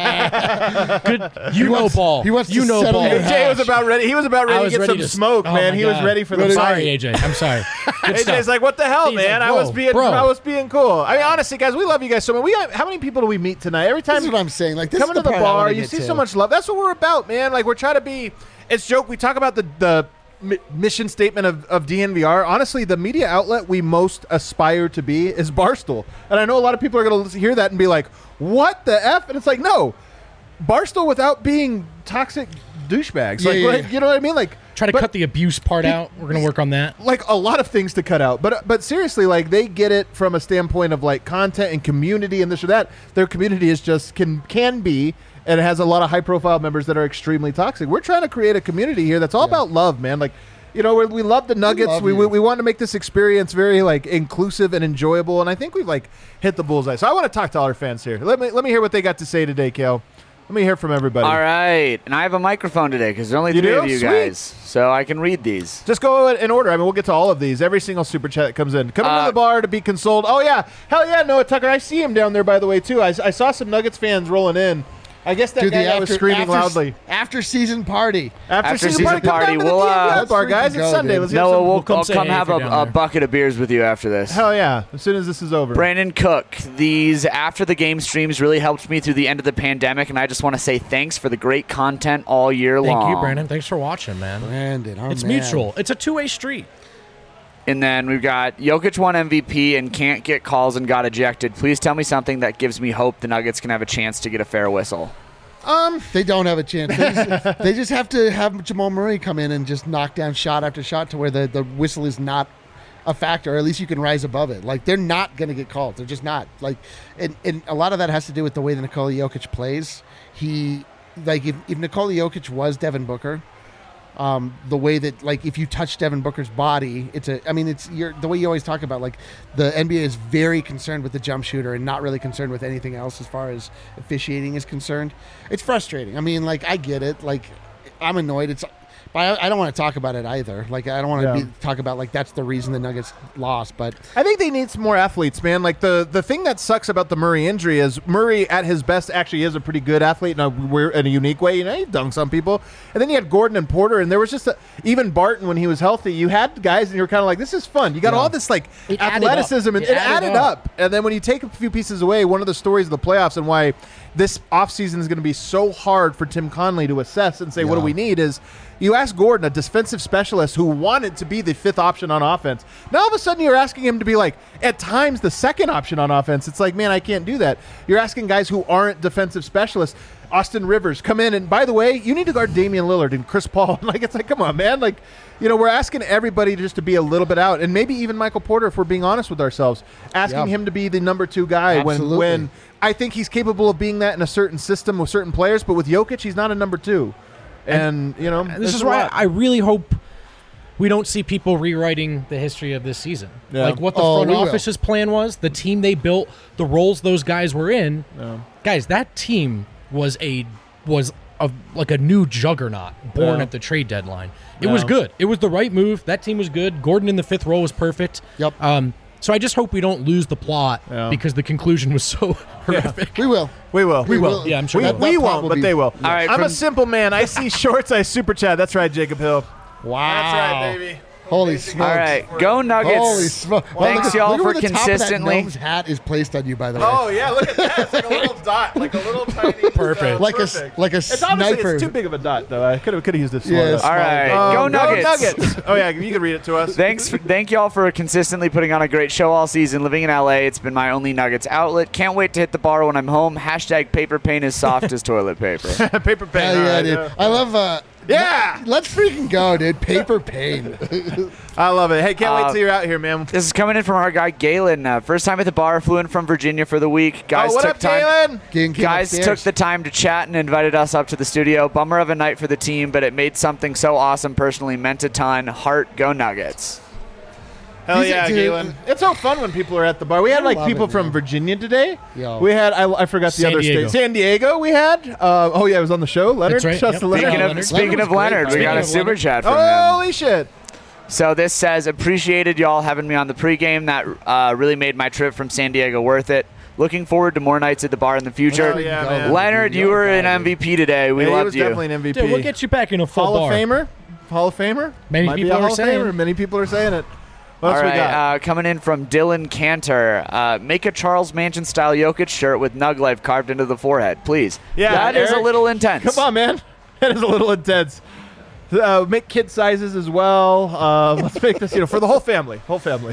Good, ball. he wants to you know settle ball. your AJ was about ready. He was about I ready was to get ready some to- smoke, oh man. my He was God. ready for the I'm fight. sorry, AJ. I'm sorry. Good AJ's stuff. like, what the hell, He's man? like, I was whoa, being, bro. I was being cool. I mean, honestly, guys, we love you guys so much. How many people do we meet tonight? Every time This is what I'm saying. Like, this coming is to the part I wanna bar, you get see to. so much love. That's what we're about, man. Like, we're trying to be. It's joke. We talk about the mission statement of DNVR. Honestly, the media outlet we most aspire to be is Barstool. And I know a lot of people are going to hear that and be like, what the F? And it's like, no. Barstool without being toxic douchebags. Yeah, Like, yeah, like, yeah. you know what I mean? Like, Try to but- cut the abuse part out. We're going to work on that. like a lot of things to cut out, but seriously, like they get it from a standpoint of like content and community and this or that. Their community is just can be, and it has a lot of high profile members that are extremely toxic. We're trying to create a community here that's all about love, man. Like, we love the Nuggets. love We you. want to make this experience very like inclusive and enjoyable, and I think we've like hit the bullseye. So I want to talk to all our fans here. Let me hear what they got to say today, Kale. Let me hear from everybody. All right. And I have a microphone today because there's only You three do? of you Sweet. guys. So I can read these. Just go in order. I mean, we'll get to all of these. Every single super chat that comes in. Coming to the Uh, bar to be consoled. Oh, yeah. Hell yeah, Noah Tucker. I see him down there, by the way, too. I saw some Nuggets fans rolling in. I guess that Dude, guy that was screaming loudly. After season party. After season come party, down to the we'll, DNVR bar, let's guys. freaking It's go, Sunday. dude. Let's get Noah, some. we'll come I'll say come hey have if you're down a there. bucket of beers with you after this. Hell yeah. As soon as this is over. Brandon Cook, these after the game streams really helped me through the end of the pandemic, and I just want to say thanks for the great content all year long. Thank you, Brandon. Thanks for watching, man. Brandon, our It's man. mutual. It's a two-way street. And then we've got Jokic won MVP and can't get calls and got ejected. Please tell me something that gives me hope the Nuggets can have a chance to get a fair whistle. They don't have a chance. They just have to have Jamal Murray come in and just knock down shot after shot to where the whistle is not a factor, or at least you can rise above it. Like, they're not going to get called. They're just not. Like, and a lot of that has to do with the way that Nikola Jokic plays. If Nikola Jokic was Devin Booker, the way that, like, if you touch Devin Booker's body, the way you always talk about, like, the NBA is very concerned with the jump shooter and not really concerned with anything else as far as officiating is concerned. It's frustrating. I mean, like, I get it. Like, I'm annoyed. But I don't want to talk about it either. Like, I don't want to talk about, like, that's the reason the Nuggets lost. But I think they need some more athletes, man. Like, the thing that sucks about the Murray injury is Murray, at his best, actually is a pretty good athlete in a unique way. You know, he dunks on people. And then you had Gordon and Porter, and there was just even Barton when he was healthy. You had guys, and you were kind of like, this is fun. You got all this, like, It added athleticism, up. and It it added added up. up. And then when you take a few pieces away, one of the stories of the playoffs and why this offseason is going to be so hard for Tim Conley to assess and say, what do we need, is you ask Gordon, a defensive specialist who wanted to be the fifth option on offense. Now all of a sudden you're asking him to be, like, at times the second option on offense. It's like, man, I can't do that. You're asking guys who aren't defensive specialists. Austin Rivers, come in, and by the way, you need to guard Damian Lillard and Chris Paul. Like, it's like, come on, man. Like, we're asking everybody just to be a little bit out, and maybe even Michael Porter, if we're being honest with ourselves, asking him to be the number 2 guy when I think he's capable of being that in a certain system with certain players, but with Jokic, he's not a number 2. And This is why I really hope we don't see people rewriting the history of this season. Yeah. Like what the front office's plan was, the team they built, the roles those guys were in. Yeah. Guys, that team was like a new juggernaut born at the trade deadline. It was good. It was the right move. That team was good. Gordon in the 5th role was perfect. Yep. So I just hope we don't lose the plot because the conclusion was so horrific. we will. We will. Yeah, I'm sure We won't, but they will. right, I'm a from- simple man. I see shorts, I super chat. That's right, Jacob Hill. Wow. That's right, baby. Holy smokes. All right, go Nuggets. Holy smokes. Thanks, y'all, for The consistently. top of that gnome's hat is placed on you, by the way. Oh yeah, look at that! It's like a little dot, like a little tiny. Perfect. Like a It's obviously sniper. it's too big of a dot though. I could have used it smaller. Yes. All right, go Nuggets. Oh yeah, you can read it to us. Thank y'all for consistently putting on a great show all season. Living in LA, it's been my only Nuggets outlet. Can't wait to hit the bar when I'm home. Hashtag paper pain is soft as toilet paper. Paper pen. Hell yeah, all right, dude. I love. Yeah. Let's freaking go, dude. Paper pain. I love it. Hey, can't wait till you're out here, man. This is coming in from our guy Galen. First time at the bar, flew in from Virginia for the week. Guys what took up, time. Galen? Guys took the time to chat and invited us up to the studio. Bummer of a night for the team, but it made something so awesome personally. Meant a ton. Heart, go Nuggets. Hell He's a yeah, dude. Galen. It's so fun when people are at the bar. We had like love people it, from man. Virginia today. Yo. We had, I forgot the San other Diego. state. San Diego we had. Oh yeah, it was on the show. Leonard. That's right. Shouts to Yep. Leonard. Leonard. Speaking of Leonard, we got a super chat from him. Holy shit. So this says, appreciated y'all having me on the pregame. That really made my trip from San Diego worth it. Looking forward to more nights at the bar in the future. Oh, yeah, man. Leonard, you were an MVP today. We Yeah, he loved was you. definitely an MVP. Dude, we'll get you back in a full Hall bar. of Famer. Hall of Famer. Many Might be people a are Hall of saying. Famer. Many people are saying it. What else All we right, got? coming in from Dylan Cantor. Make a Charles Manson style Jokic shirt with Nug Life carved into the forehead, please. Yeah, that is a Eric, little intense. Come on, man. That is a little intense. Make kid sizes as well. Let's make this, for the whole family. Whole family.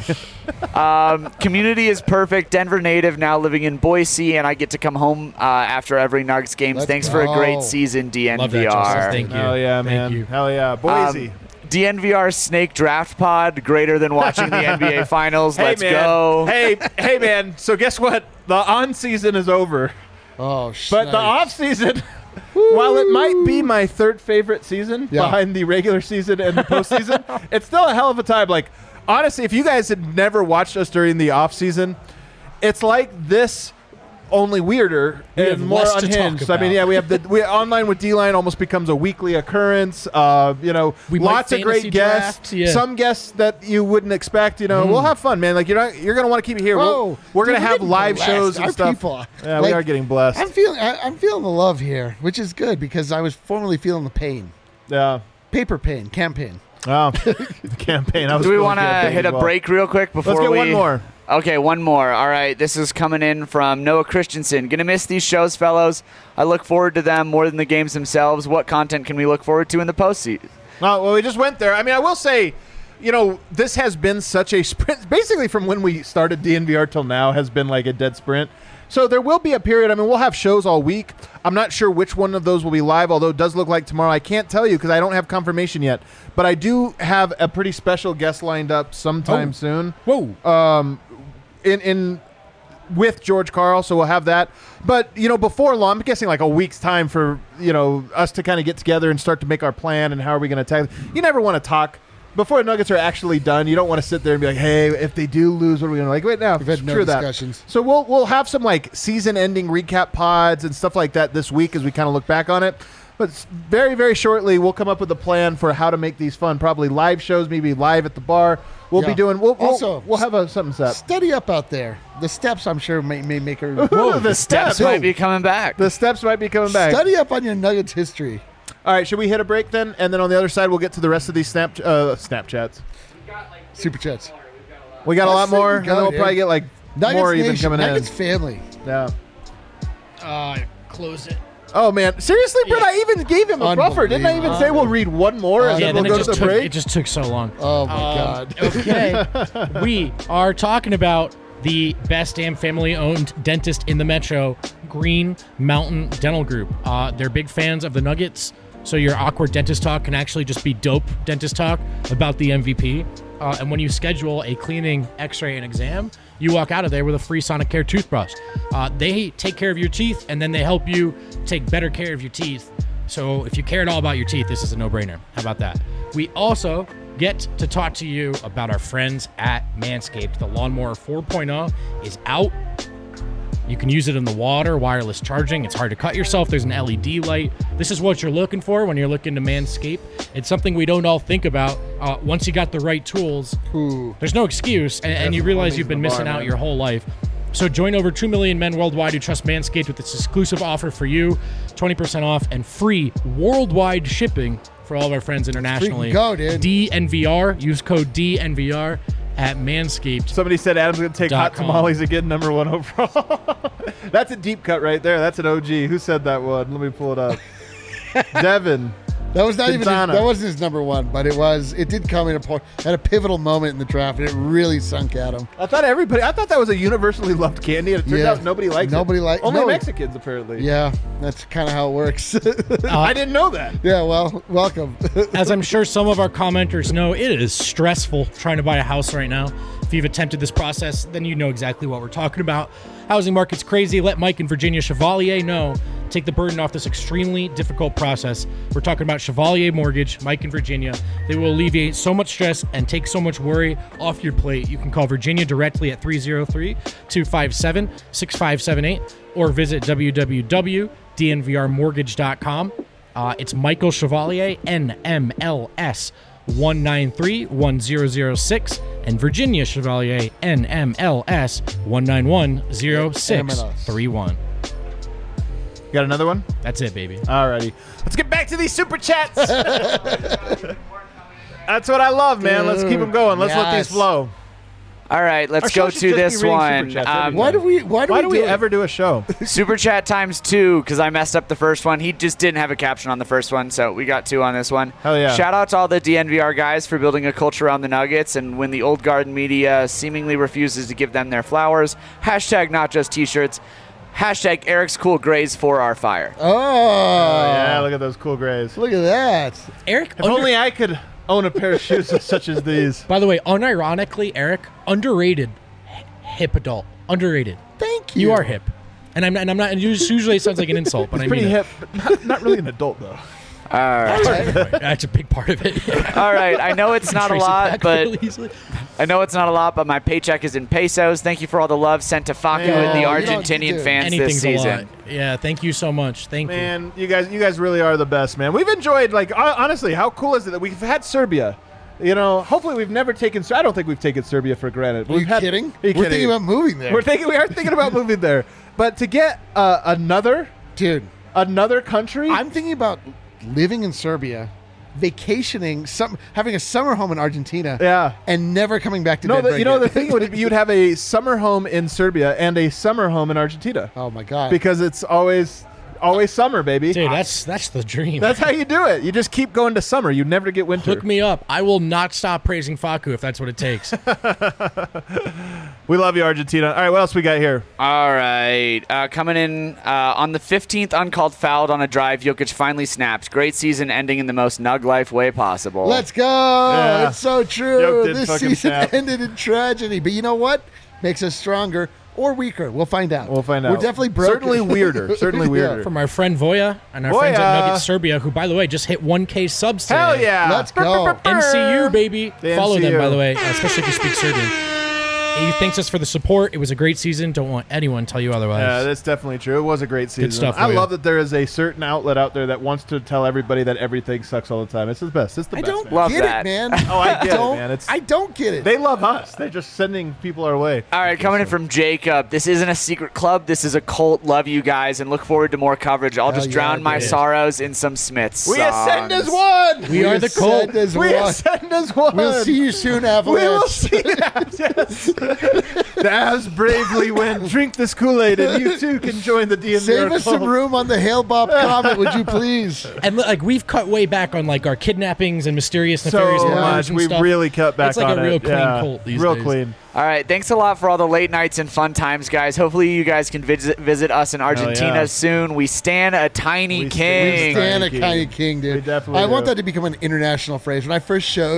Community is perfect. Denver native, now living in Boise, and I get to come home after every Nuggets game. Let's Thanks for a great go. season, DNVR. Love that, Joseph. Thank you. Hell yeah, Thank man. you. Hell yeah. Boise. DNVR Snake Draft Pod, greater than watching the NBA Finals. Let's man. go. Hey, man. So guess what? The on season is over, Oh, but the off season, while it might be my third favorite season Yeah. behind the regular season and the postseason, it's still a hell of a time. Like, honestly, if you guys had never watched us during the off season, it's like this. Only weirder have and more less to talk unhinged. I mean, about. yeah, we online with D-Line almost becomes a weekly occurrence. We might Lots of great fantasy guests. draft, yeah. Some guests that you wouldn't expect. We'll have fun, man. Like you're gonna want to keep it here. Whoa, We're gonna dude, have getting live blessed. shows and Our stuff. people. Yeah, we Like, are getting blessed. I'm feeling the love here, which is good because I was formerly feeling the pain. Yeah. Paper pain, campaign. Oh, the campaign. I was Do we feeling want to campaign hit as a well. break real quick before Let's get we? one more. Okay, one more. All right, this is coming in from Noah Christensen. Gonna miss these shows, fellows. I look forward to them more than the games themselves. What content can we look forward to in the postseason? Well, we just went there. I mean, I will say, this has been such a sprint. Basically, from when we started DNVR till now has been like a dead sprint. So there will be a period. I mean, we'll have shows all week. I'm not sure which one of those will be live, although it does look like tomorrow. I can't tell you because I don't have confirmation yet. But I do have a pretty special guest lined up sometime soon. Whoa. In with George Karl, so we'll have that. But before long, I'm guessing like a week's time for us to kind of get together and start to make our plan and how are we going to attack. You never want to talk before the Nuggets are actually done. You don't want to sit there and be like, hey, if they do lose, what are we going to like? Wait, now We've had no true that. discussions. So we'll have some like season-ending recap pods and stuff like that this week as we kind of look back on it. But very, very shortly, we'll come up with a plan for how to make these fun. Probably live shows, maybe live at the bar. We'll be doing. We'll have something set. Steady up out there. The steps, I'm sure, may make her. Whoa, the steps Might be coming back. The steps might be coming back. Study up on your Nuggets history. All right, should we hit a break then? And then on the other side, we'll get to the rest of these Snapchats. Super chats. We got a lot Let's more, freaking and go, then we'll dude. probably get like Nuggets more even Nation, coming Nuggets in. family. Yeah. Close it. Oh man, seriously, Brett, I even gave him a buffer. Didn't I even say we'll read one more and Yeah, then we'll then go to the it break? just took so long. Oh my God. Okay. We are talking about the best damn family-owned dentist in the metro, Green Mountain Dental Group. They're big fans of the Nuggets, so your awkward dentist talk can actually just be dope dentist talk about the MVP. And when you schedule a cleaning, x-ray, and exam, you walk out of there with a free Sonic Care toothbrush. They take care of your teeth, and then they help you take better care of your teeth. So if you care at all about your teeth, this is a no-brainer. How about that? We also get to talk to you about our friends at Manscaped. The Lawnmower 4.0 is out. You can use it in the water, wireless charging. It's hard to cut yourself. There's an LED light. This is what you're looking for when you're looking to manscape. It's something we don't all think about. Once you got the right tools, there's no excuse, and you realize you've been missing out your whole life. So join over 2 million men worldwide who trust Manscaped with this exclusive offer for you, 20% off and free worldwide shipping for all of our friends internationally. Freaking go, dude. DNVR. Use code DNVR at Manscaped. Somebody said Adam's going to take hot .com. tamales again, number 1 overall. That's a deep cut right there. That's an OG. Who said that one? Let me pull it up. Devin. That was not even his, Quintana. that wasn't his number one, but it did come in at a pivotal moment in the draft, and it really sunk at him. I thought that was a universally loved candy, and it turns out nobody likes it. Only Mexicans, apparently. Yeah, that's kind of how it works. I didn't know that. Yeah, well, welcome. As I'm sure some of our commenters know, it is stressful trying to buy a house right now. If you've attempted this process, then you know exactly what we're talking about. Housing market's crazy. Let Mike and Virginia Chevalier know. Take the burden off this extremely difficult process. We're talking about Chevalier Mortgage, Mike and Virginia. They will alleviate so much stress and take so much worry off your plate. You can call Virginia directly at 303-257-6578 or visit www.dnvrmortgage.com. It's Michael Chevalier, NMLS 193-1006, and Virginia Chevalier, NMLS 191-0631. Got another one? That's it, baby. Alrighty. Let's get back to these super chats. That's what I love, man. Let's keep them going. Let's let these flow. All right, let's Our show go should to just this be reading one. super chats every Why do we ever do a show? Super chat times 2 because I messed up the first one. He just didn't have a caption on the first one, so we got 2 on this one. Hell yeah. Shout out to all the DNVR guys for building a culture around the Nuggets, and when the old guard media seemingly refuses to give them their flowers, hashtag not just t-shirts, hashtag Eric's cool grays for our fire. Oh, Yeah, look at those cool grays. look at that. Eric, If only I could own a pair of shoes such as these. by the way, unironically, Eric, underrated hip adult. Underrated. Thank you. You are hip. And I'm not, and usually it sounds like an insult, but I Pretty mean hip, but not really an adult, though. All right. That's a big part of it. All right. I know it's not a Trace it lot, back but really easily. my paycheck is in pesos. Thank you for all the love sent to Facu and the you don't Argentinian do fans this Anything's a season. lot. Yeah, thank you so much. Thank you. Man, you guys really are the best, man. We've enjoyed, honestly, how cool is it that we've had Serbia? You know, hopefully we've never taken. I don't think we've taken Serbia for granted. Are you kidding? We're thinking about moving there. We are thinking about moving there, but to get another country, I'm thinking about living in Serbia, vacationing, having a summer home in Argentina, Yeah. and never coming back to No, Denver the again. thing would be you'd have a summer home in Serbia and a summer home in Argentina Oh my god! because it's always summer, baby. Dude, that's the dream. That's how you do it. You just keep going to summer. You never get winter. Hook me up. I will not stop praising Facu if that's what it takes. We love you, Argentina. All right, what else we got here? All right. Coming in on the 15th uncalled fouled on a drive, Jokic finally snapped. Great season ending in the most Nug life way possible. Let's go! Yeah. It's so true. Yoke did This fucking season snap. ended in tragedy, but you know what? Makes us stronger or weaker. We'll find out. We'll find out. We're definitely broken. Certainly weirder. Certainly weirder. From our friend Voya and our friends at Nugget Serbia, who, by the way, just hit 1K subs today. Hell yeah! Let's go. NCU, baby. The Follow them, NCU. by the way, especially if you speak Serbian. He thanks us for the support. It was a great season. Don't want anyone to tell you otherwise. Yeah, that's definitely true. It was a great season. stuff, I Voya. love that there is a certain outlet out there that wants to tell everybody that everything sucks all the time. It's the best. It's the I best. don't man. Love get that. it, man. Oh, I get it, don't, man. I don't get it. They love us. They're just sending people our way. All right, coming in from Jacob. This isn't a secret club. This is a cult. Love you guys and look forward to more coverage. I'll just yeah, drown my dude. sorrows in some Smiths We ascend as songs. one. We are the cult. ascend as We one. ascend as one. We'll see you soon, We Avalanche. will see that. Yes. The Avs bravely win. Drink this Kool-Aid, and you too can join the DNVR Save us club. some room on the Hail Bob Comet, would you please? And like we've cut way back on like our kidnappings and mysterious, nefarious So murders much. and We stuff. really cut back It's like on a real it. clean Yeah. cult these Real days. clean. All right, thanks a lot for all the late nights and fun times, guys. Hopefully you guys can visit us in Argentina yeah. soon. We stand a tiny We king. stand- Stan a King. kind of king, dude. We definitely I want do. that to become an international phrase. When I first showed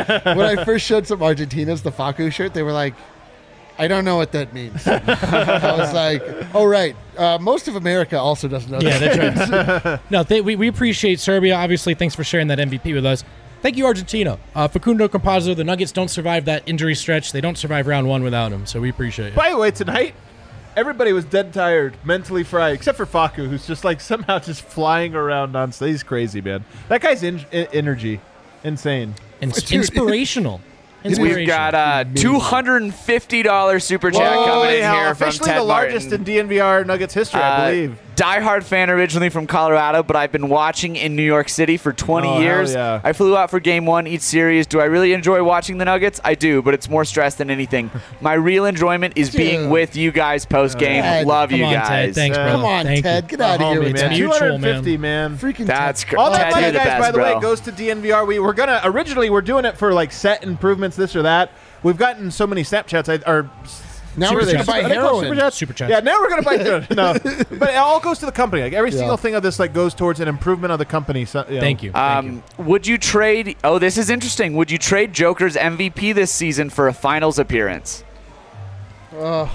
some Argentinas the Facu shirt, they were like, I don't know what that means. I was like, oh, right. Most of America also doesn't know Yeah, that. that's right. No, we appreciate Serbia. Obviously, thanks for sharing that MVP with us. Thank you, Argentina. Facundo Campazzo, the Nuggets don't survive that injury stretch. They don't survive round one without him, so we appreciate it. By the way, tonight, everybody was dead tired, mentally fried, except for Facu, who's just like somehow just flying around on stage. He's crazy, man. That guy's energy, insane. Inspirational. We've got a $250 super chat coming in here from officially Ted the largest Martin. in DNVR Nuggets history, I believe. diehard fan originally from Colorado, but I've been watching in New York City for 20 years. Yeah. I flew out for game 1 each series. Do I really enjoy watching the Nuggets? I do, but it's more stress than anything. My real enjoyment is being with you guys post game. Ted, Love come you on, guys. Ted. Thanks, brother. Come on, Thank Ted. you. Get out of here Homie, with man. that. Mutual, 250, man. Freaking That's Ted. All that Ted, money, you're the guys, best, by the way, bro. goes to DNVR. We're gonna originally we're doing it for like set improvements, this or that. We've gotten so many Snapchats. Now we're going to buy heroin. Super chats. Yeah, now we're gonna buy no, but it all goes to the company. Like every single thing of this like goes towards an improvement of the company. So, Thank you. Would you trade? Oh, this is interesting. Would you trade Joker's MVP this season for a finals appearance? I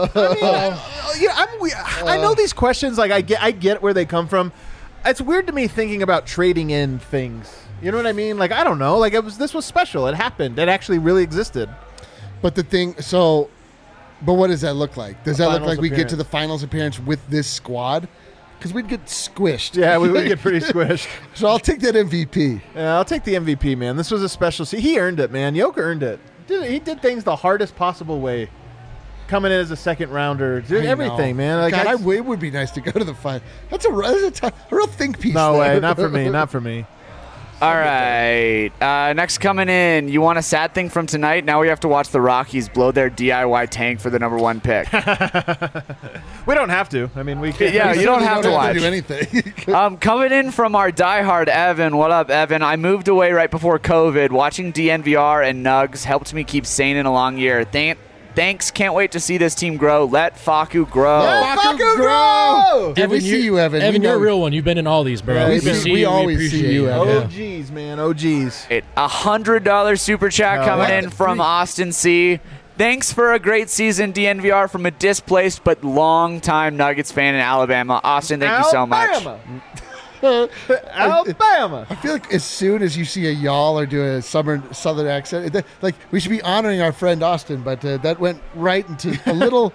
know these questions. Like I get where they come from. It's weird to me thinking about trading in things. You know what I mean? Like I don't know. Like this was special. It happened. It actually really existed. But the thing, but what does that look like? Does that look Finals like we get to appearance. the finals appearance with this squad? Because we'd get squished. Yeah, we would get pretty squished. So I'll take that MVP. Yeah, I'll take the MVP, man. This was a special. He earned it, man. Joker earned it. He did things the hardest possible way. Coming in as a second rounder, I everything, know. man. Like, God, it would be nice to go to the final. That's a real think piece. no there. way, not for me, not for me. All right. Next coming in, you want a sad thing from tonight? Now we have to watch the Rockies blow their DIY tank for the #1 pick. We don't have to. I mean, we can. Yeah, you don't have to watch. do anything. Coming in from our diehard Evan. What up, Evan? I moved away right before COVID. Watching DNVR and Nugs helped me keep sane in a long year. Thanks. Can't wait to see this team grow. Let Facu grow. Let Facu grow! Did we see you, Evan? Evan, We you're a know- real one. You've been in all these, bro. Yeah, we always see appreciate you, it. Evan. OGs, man. OGs. $100 super chat coming what? in from Austin C. Thanks for a great season, DNVR, from a displaced but long-time Nuggets fan in Alabama. Austin, thank you so much. Alabama. I feel like as soon as you see a y'all or do a southern accent, like we should be honoring our friend Austin, but that went right into a little,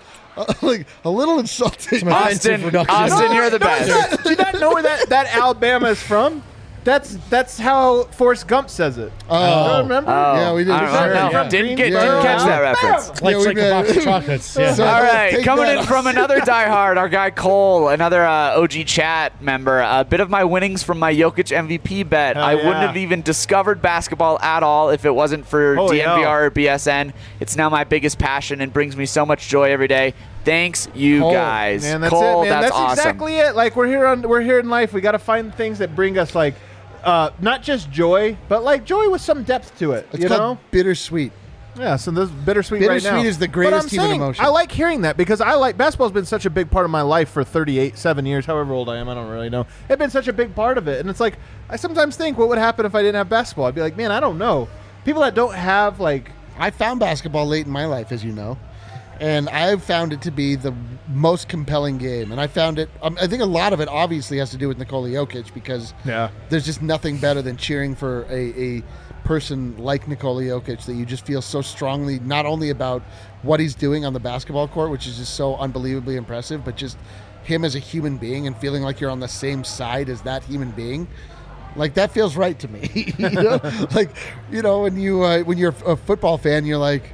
a little insulting. Austin, you're the best. Do you not know where that Alabama is from? That's how Forrest Gump says it. Oh. Remember? Yeah, we did. I don't know. Yeah. Didn't Yeah. catch that reference. Like, Yeah, it's like we a box did. of chocolates. Yeah. So- All right, Take coming that, in from another diehard, our guy Cole, another OG chat member. A bit of my winnings from my Jokic MVP bet. Hell I wouldn't yeah. have even discovered basketball at all if it wasn't for Holy DNVR hell. or BSN. It's now my biggest passion and brings me so much joy every day. Thanks, you Cole. guys. Man, that's Cole, it, man. That's awesome. exactly it. Like we're here in life. We got to find things that bring us like not just joy, but like joy with some depth to it. It's you called know? bittersweet. Yeah, so this bittersweet right now. Bittersweet is the But greatest I'm human saying, emotion. I like hearing that because basketball's been such a big part of my life for 7 years, however old I am. I don't really know. It's been such a big part of it, and it's like I sometimes think, what would happen if I didn't have basketball? I'd be like, man, I don't know. People that don't have like, I found basketball late in my life, as you know, and I've found it to be the most compelling game. And I found it. I think a lot of it obviously has to do with Nikola Jokic because there's just nothing better than cheering for a person like Nikola Jokic that you just feel so strongly not only about what he's doing on the basketball court, which is just so unbelievably impressive, but just him as a human being and feeling like you're on the same side as that human being. Like that feels right to me. You know? Like, you know, when you're a football fan, you're like,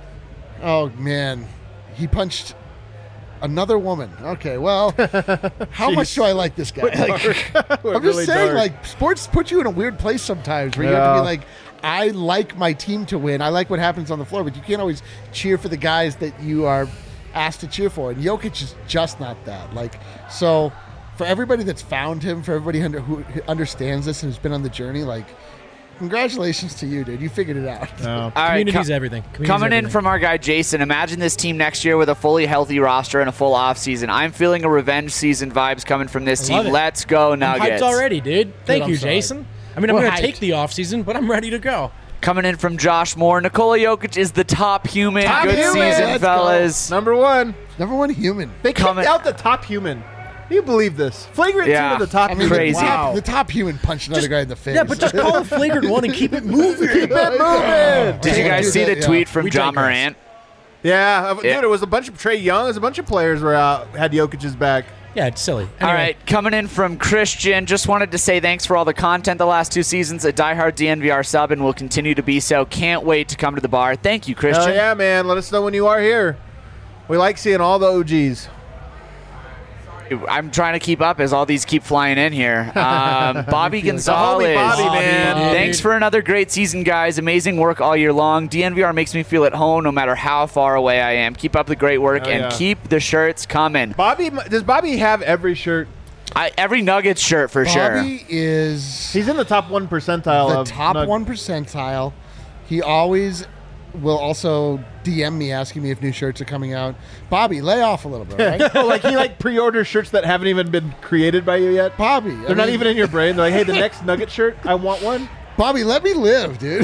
oh man, he punched another woman. Okay, well, how much do I like this guy? Like, I'm just saying, like, sports put you in a weird place sometimes where you have to be like, I like my team to win. I like what happens on the floor, but you can't always cheer for the guys that you are asked to cheer for. And Jokic is just not that. Like, so for everybody that's found him, for everybody who understands this and has been on the journey, like, congratulations to you, dude. You figured it out. All right, Community's everything. Community's Coming in everything. from our guy Jason, imagine this team next year with a fully healthy roster and a full offseason. I'm feeling a revenge season vibes coming from this I love team. it. Let's go, I'm Nuggets. hyped already, dude. Thank I'm you, sorry. Jason. I mean, I'm We're going to hyped. take the offseason, but I'm ready to go. Coming in from Josh Moore, Nikola Jokic is the top human. Top Good human. season, Let's fellas. number one. Number one human. They kicked Coming- out the top human. Do you believe this? Flagrant Yeah. 2 of the top I mean, human. Crazy. Wow. The top human punched another guy in the face. Yeah, but just call it flagrant one and keep it moving. Keep it moving. Did you guys do see that, the yeah. tweet from We John digress. Morant? Yeah, Yeah. dude, it was a bunch of Trey Young. It was a bunch of players were out, had Jokic's back. Yeah, it's silly. All Anyway, right, coming in from Christian. Just wanted to say thanks for all the content the last 2 seasons. A diehard DNVR sub and will continue to be so. Can't wait to come to the bar. Thank you, Christian. Hell yeah, man. Let us know when you are here. We like seeing all the OGs. I'm trying to keep up as all these keep flying in here. Bobby Gonzalez. Bobby, man. Thanks for another great season, guys. Amazing work all year long. DNVR makes me feel at home no matter how far away I am. Keep up the great work and keep the shirts coming. Does Bobby have every shirt? Every Nuggets shirt for sure. Bobby is He's in the top 1 percentile the of top 1 percentile. He always will also DM me asking me if new shirts are coming out. Bobby, lay off a little bit, right? Like he pre-orders shirts that haven't even been created by you yet. Bobby. They're not even in your brain. They're like, hey, the next Nugget shirt, I want one. Bobby, let me live, dude.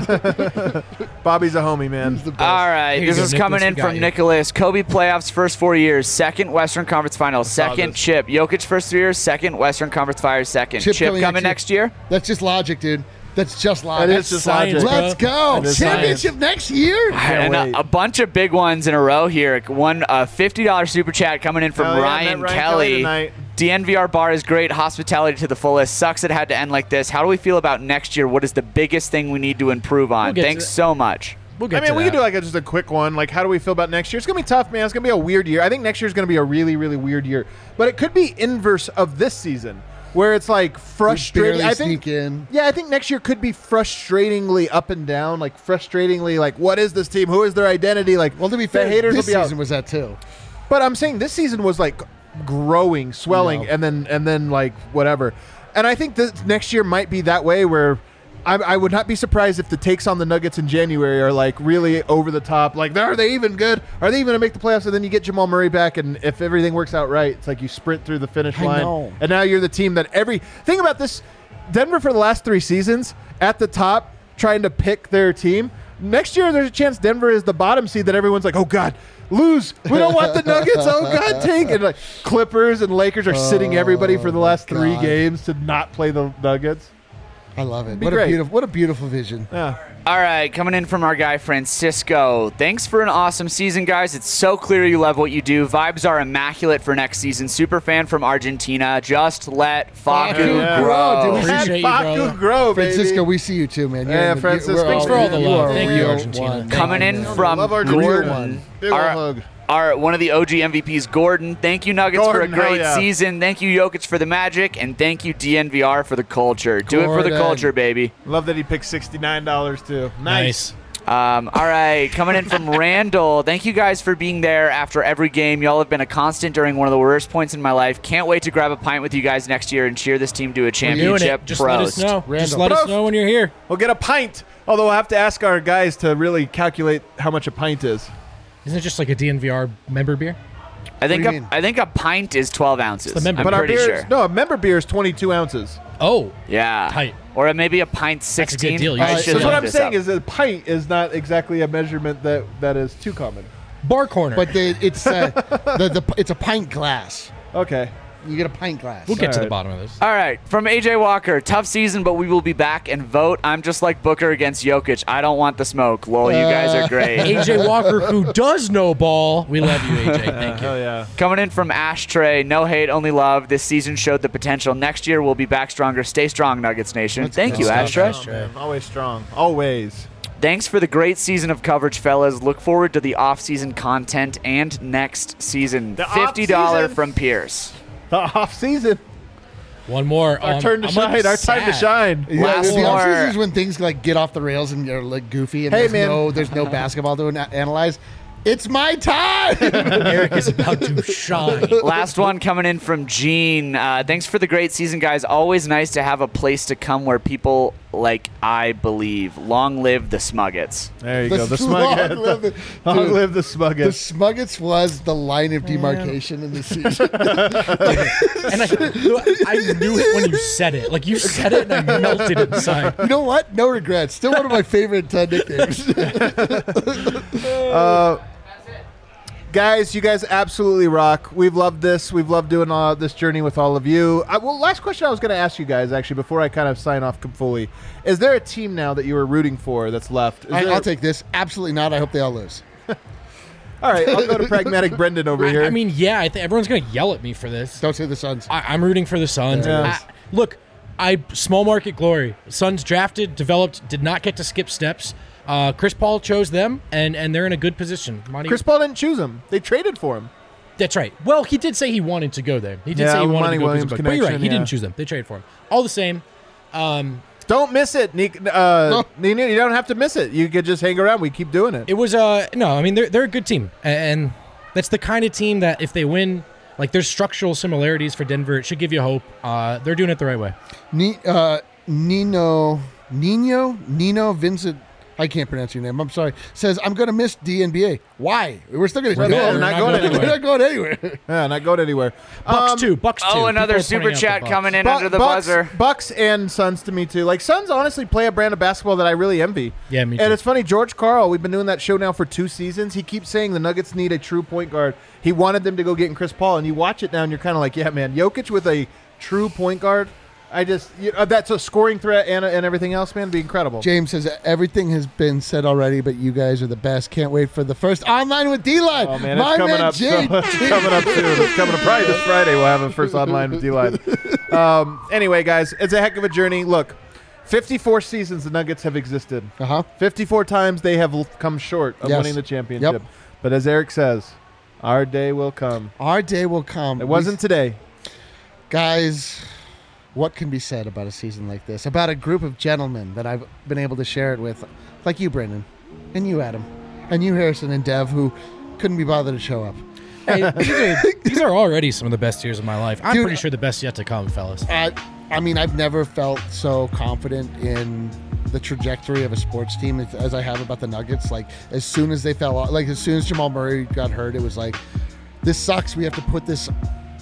Bobby's a homie, man. All right, this is coming in from Nicholas. Kobe playoffs first 4 years, second Western Conference Finals, second chip. Jokic first 3 years, second Western Conference Finals, second chip coming next year. That's just logic, dude. That's just logic. That is just logic. Let's go. That is Championship next year. And a bunch of big ones in a row here. One $50 super chat coming in from Ryan Kelly. tonight. DNVR bar is great. Hospitality to the fullest. Sucks it had to end like this. How do we feel about next year? What is the biggest thing we need to improve on? Thanks so much. We'll get we to can that. do just a quick one. Like, how do we feel about next year? It's going to be tough, man. It's going to be a weird year. I think next year is going to be a really, really weird year. But it could be inverse of this season, where it's like frustrating. I think, I think next year could be frustratingly up and down, like frustratingly, like what is this team? Who is their identity? Like, well, to be fair, the haters this will be season was that too. But I'm saying this season was like growing, swelling, and then like whatever. And I think that next year might be that way where I would not be surprised if the takes on the Nuggets in January are like really over the top. Like, are they even good? Are they even going to make the playoffs? And then you get Jamal Murray back, and if everything works out right, it's like you sprint through the finish line. And now you're the team that think about this. Denver for the last 3 seasons at the top trying to pick their team. Next year, there's a chance Denver is the bottom seed that everyone's like, oh, God, lose. We don't want the Nuggets. Oh, God, tank. And like Clippers and Lakers are sitting everybody for the last 3 games to not play the Nuggets. I love it. What a beautiful vision. Yeah. All right, coming in from our guy Francisco. Thanks for an awesome season, guys. It's so clear you love what you do. Vibes are immaculate for next season. Super fan from Argentina. Just let Facu grow. Appreciate you, Facu grow, baby. Francisco, we see you too, man. Yeah, Francisco. Thanks for all the love. Thank you, Argentina. Coming in from Gordon. Big ol' hug. One of the OG MVPs, Gordon. Thank you, Nuggets, for a great season. Thank you, Jokic, for the magic. And thank you, DNVR, for the culture. Do it for the culture, baby. Love that he picked $69, too. Nice. All right, coming in from Randall. Thank you guys for being there after every game. Y'all have been a constant during one of the worst points in my life. Can't wait to grab a pint with you guys next year and cheer this team to a championship. Just let us know. Just let us know when you're here. We'll get a pint. Although we'll have to ask our guys to really calculate how much a pint is. Isn't it just like a DNVR member beer? I think a pint is 12 ounces. I'm pretty sure. No, a member beer is 22 ounces. Oh. Yeah. Tight. Or maybe a pint 16. That's a good deal. So what I'm saying is that a pint is not exactly a measurement that is too common. Bar corner. But it's it's a pint glass. Okay. You get a pint glass. We'll get to the bottom of this. All right. From AJ Walker, tough season, but we will be back and vote. I'm just like Booker against Jokic. I don't want the smoke. Lol, you guys are great. AJ Walker, who does know ball. We love you, AJ. Thank you. Oh, yeah. Coming in from Ashtray, no hate, only love. This season showed the potential. Next year, we'll be back stronger. Stay strong, Nuggets Nation. Thank you, Ashtray. Oh, man. Always strong. Always. Thanks for the great season of coverage, fellas. Look forward to the off-season content and next season. The $50 off-season? from Pierce. The off season. One more. Our turn to shine. Our time to shine. Last the more. off-season is when things like get off the rails and you're like goofy and there's no basketball to analyze. It's my time. Eric is about to shine. Last one coming in from Gene. Thanks for the great season, guys. Always nice to have a place to come where people like I believe. Long live the Smuggets. There you go. The Smuggets. Long live the Smuggets. The Smuggets was the line of demarcation in the season. And I knew it when you said it. Like, you said it and I melted inside. You know what? No regrets. Still one of my favorite nicknames. Guys, you guys absolutely rock. We've loved this. We've loved doing this journey with all of you. Last question I was going to ask you guys, actually, before I kind of sign off fully. Is there a team now that you were rooting for that's left? I'll take this. Absolutely not. I hope they all lose. All right, I'll go to Pragmatic Brendan over here. I mean, yeah, I think everyone's going to yell at me for this. Don't say the Suns. I'm rooting for the Suns. Yeah. Look, small market glory. Suns drafted, developed, did not get to skip steps. Chris Paul chose them, and they're in a good position. Chris Paul didn't choose him. They traded for him. That's right. Well, he did say he wanted to go there. He did say he wanted to go Williams visit Book. But you're right. He connection, didn't choose them. They traded for him. All the same. Don't miss it, Nina. You don't have to miss it. You could just hang around. We keep doing it. It was no. I mean, they're a good team, and that's the kind of team that if they win, like there's structural similarities for Denver. It should give you hope. They're doing it the right way. Nino Vincent. I can't pronounce your name. I'm sorry. Says, I'm going to miss DNBA. Why? We're still going to do it. We're not going anywhere. We're not going anywhere. Yeah, not going anywhere. Bucks too. Oh, another super chat coming in under the buzzer. Bucks and Suns to me too. Like Suns honestly play a brand of basketball that I really envy. Yeah, me too. And it's funny, George Karl, we've been doing that show now for 2 seasons. He keeps saying the Nuggets need a true point guard. He wanted them to go get in Chris Paul, and you watch it now and you're kind of like, yeah, man, Jokic with a true point guard. That's a scoring threat and everything else, man. It'd be incredible. James says everything has been said already, but you guys are the best. Can't wait for the first Online with D-Line. Oh man, it's coming up. It's coming up soon. It's coming up probably this Friday. We'll have a first Online with D-Line. Anyway, guys, it's a heck of a journey. Look, 54 seasons the Nuggets have existed. 54 times they have come short of winning the championship. Yep. But as Eric says, our day will come. Our day will come. It wasn't today, guys. What can be said about a season like this? About a group of gentlemen that I've been able to share it with, like you, Brendan, and you, Adam, and you, Harrison, and Dev, who couldn't be bothered to show up. Hey, these are already some of the best years of my life. I'm pretty sure the best yet to come, fellas. I mean, I've never felt so confident in the trajectory of a sports team as I have about the Nuggets. Like, as soon as they fell off, like, as soon as Jamal Murray got hurt, it was like, this sucks. We have to put this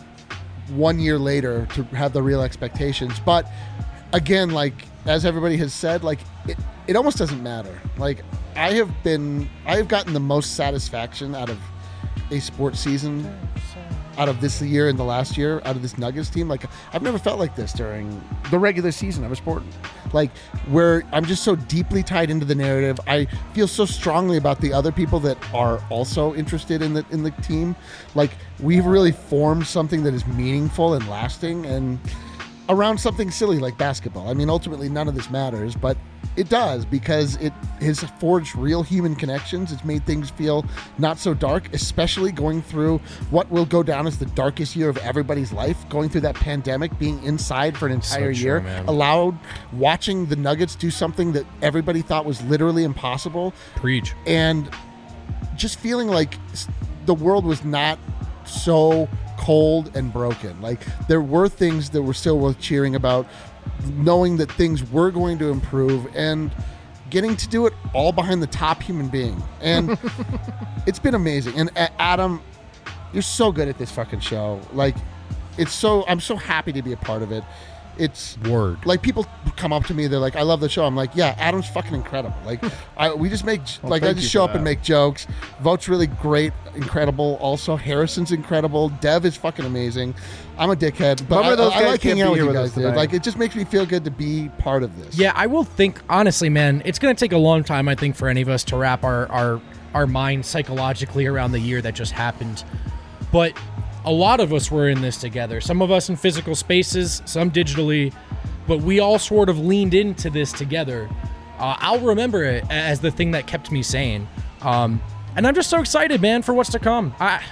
1 year later to have the real expectations. But again, like as everybody has said, like it almost doesn't matter. Like I have gotten the most satisfaction out of a sports season out of this year and the last year out of this Nuggets team. Like I've never felt like this during the regular season of a sport. Like where I'm just so deeply tied into the narrative. I feel so strongly about the other people that are also interested in the team. Like we've really formed something that is meaningful and lasting and around something silly like basketball. I mean, ultimately none of this matters, but it does because it has forged real human connections. It's made things feel not so dark, especially going through what will go down as the darkest year of everybody's life, going through that pandemic, being inside for an entire year, allowed watching the Nuggets do something that everybody thought was literally impossible. Preach. And just feeling like the world was not so cold and broken. Like there were things that were still worth cheering about, knowing that things were going to improve and getting to do it all behind the top human being. And it's been amazing. And Adam, you're so good at this fucking show. Like I'm so happy to be a part of it. It's word. Like people come up to me, they're like, I love the show. I'm like, yeah, Adam's fucking incredible. Like we just make I just show up and make jokes. Vote's really great, incredible. Also, Harrison's incredible. Dev is fucking amazing. I'm a dickhead, but I like hanging out with you guys, dude. Like it just makes me feel good to be part of this. Yeah, I will think honestly, man, it's gonna take a long time, I think, for any of us to wrap our mind psychologically around the year that just happened. But a lot of us were in this together. Some of us in physical spaces, some digitally, but we all sort of leaned into this together. I'll remember it as the thing that kept me sane. And I'm just so excited, man, for what's to come.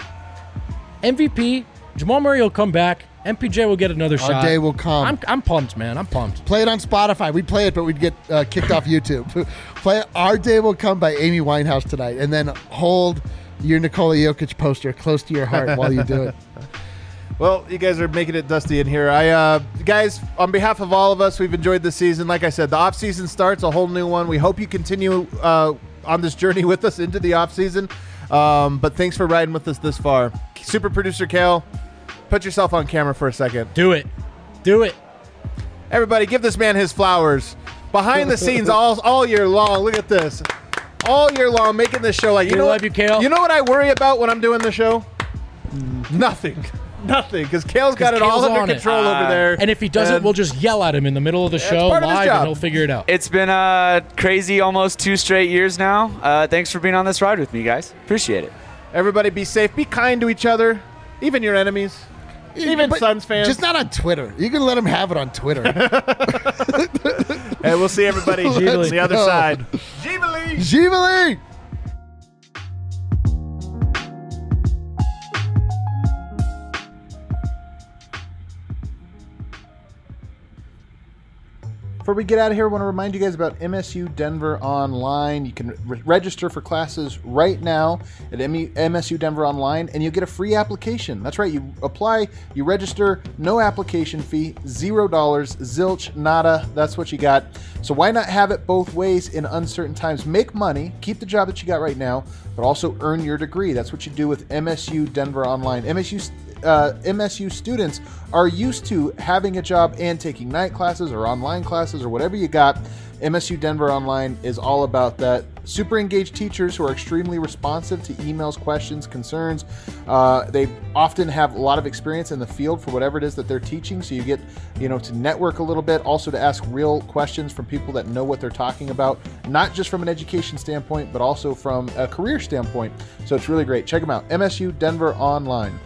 MVP, Jamal Murray will come back. MPJ will get another shot. Our day will come. I'm pumped, man. I'm pumped. Play it on Spotify. We'd play it, but we'd get kicked off YouTube. Play it. Our Day Will Come by Amy Winehouse tonight, and then hold your Nikola Jokic poster close to your heart while you do it. Well, you guys are making it dusty in here. Guys, on behalf of all of us, we've enjoyed this season. Like I said, the off season starts, a whole new one. We hope you continue on this journey with us into the off season. But thanks for riding with us this far. Super producer Kale, put yourself on camera for a second. Do it. Everybody, give this man his flowers. Behind the scenes all year long. Look at this. All year long, making this show like love you, Kale. You know what I worry about when I'm doing the show? Nothing, because Kale's got it all under control over there. And if he doesn't, we'll just yell at him in the middle of the show live, and he'll figure it out. It's been crazy, almost 2 straight years now. Thanks for being on this ride with me, guys. Appreciate it. Everybody, be safe. Be kind to each other, even your enemies. Even Suns fans. Just not on Twitter. You can let them have it on Twitter. Hey, we'll see everybody on the other side. Givali! Before we get out of here, I want to remind you guys about MSU Denver Online. You can register for classes right now at MSU Denver Online, and you'll get a free application. That's right. You apply, you register, no application fee, $0, zilch, nada. That's what you got. So why not have it both ways in uncertain times? Make money, keep the job that you got right now, but also earn your degree. That's what you do with MSU Denver Online. MSU students are used to having a job and taking night classes or online classes or whatever you got. MSU Denver Online is all about that. Super engaged teachers who are extremely responsive to emails, questions, concerns. They often have a lot of experience in the field for whatever it is that they're teaching, so you get to network a little bit, also to ask real questions from people that know what they're talking about, not just from an education standpoint, but also from a career standpoint. So it's really great. Check them out, MSU Denver Online.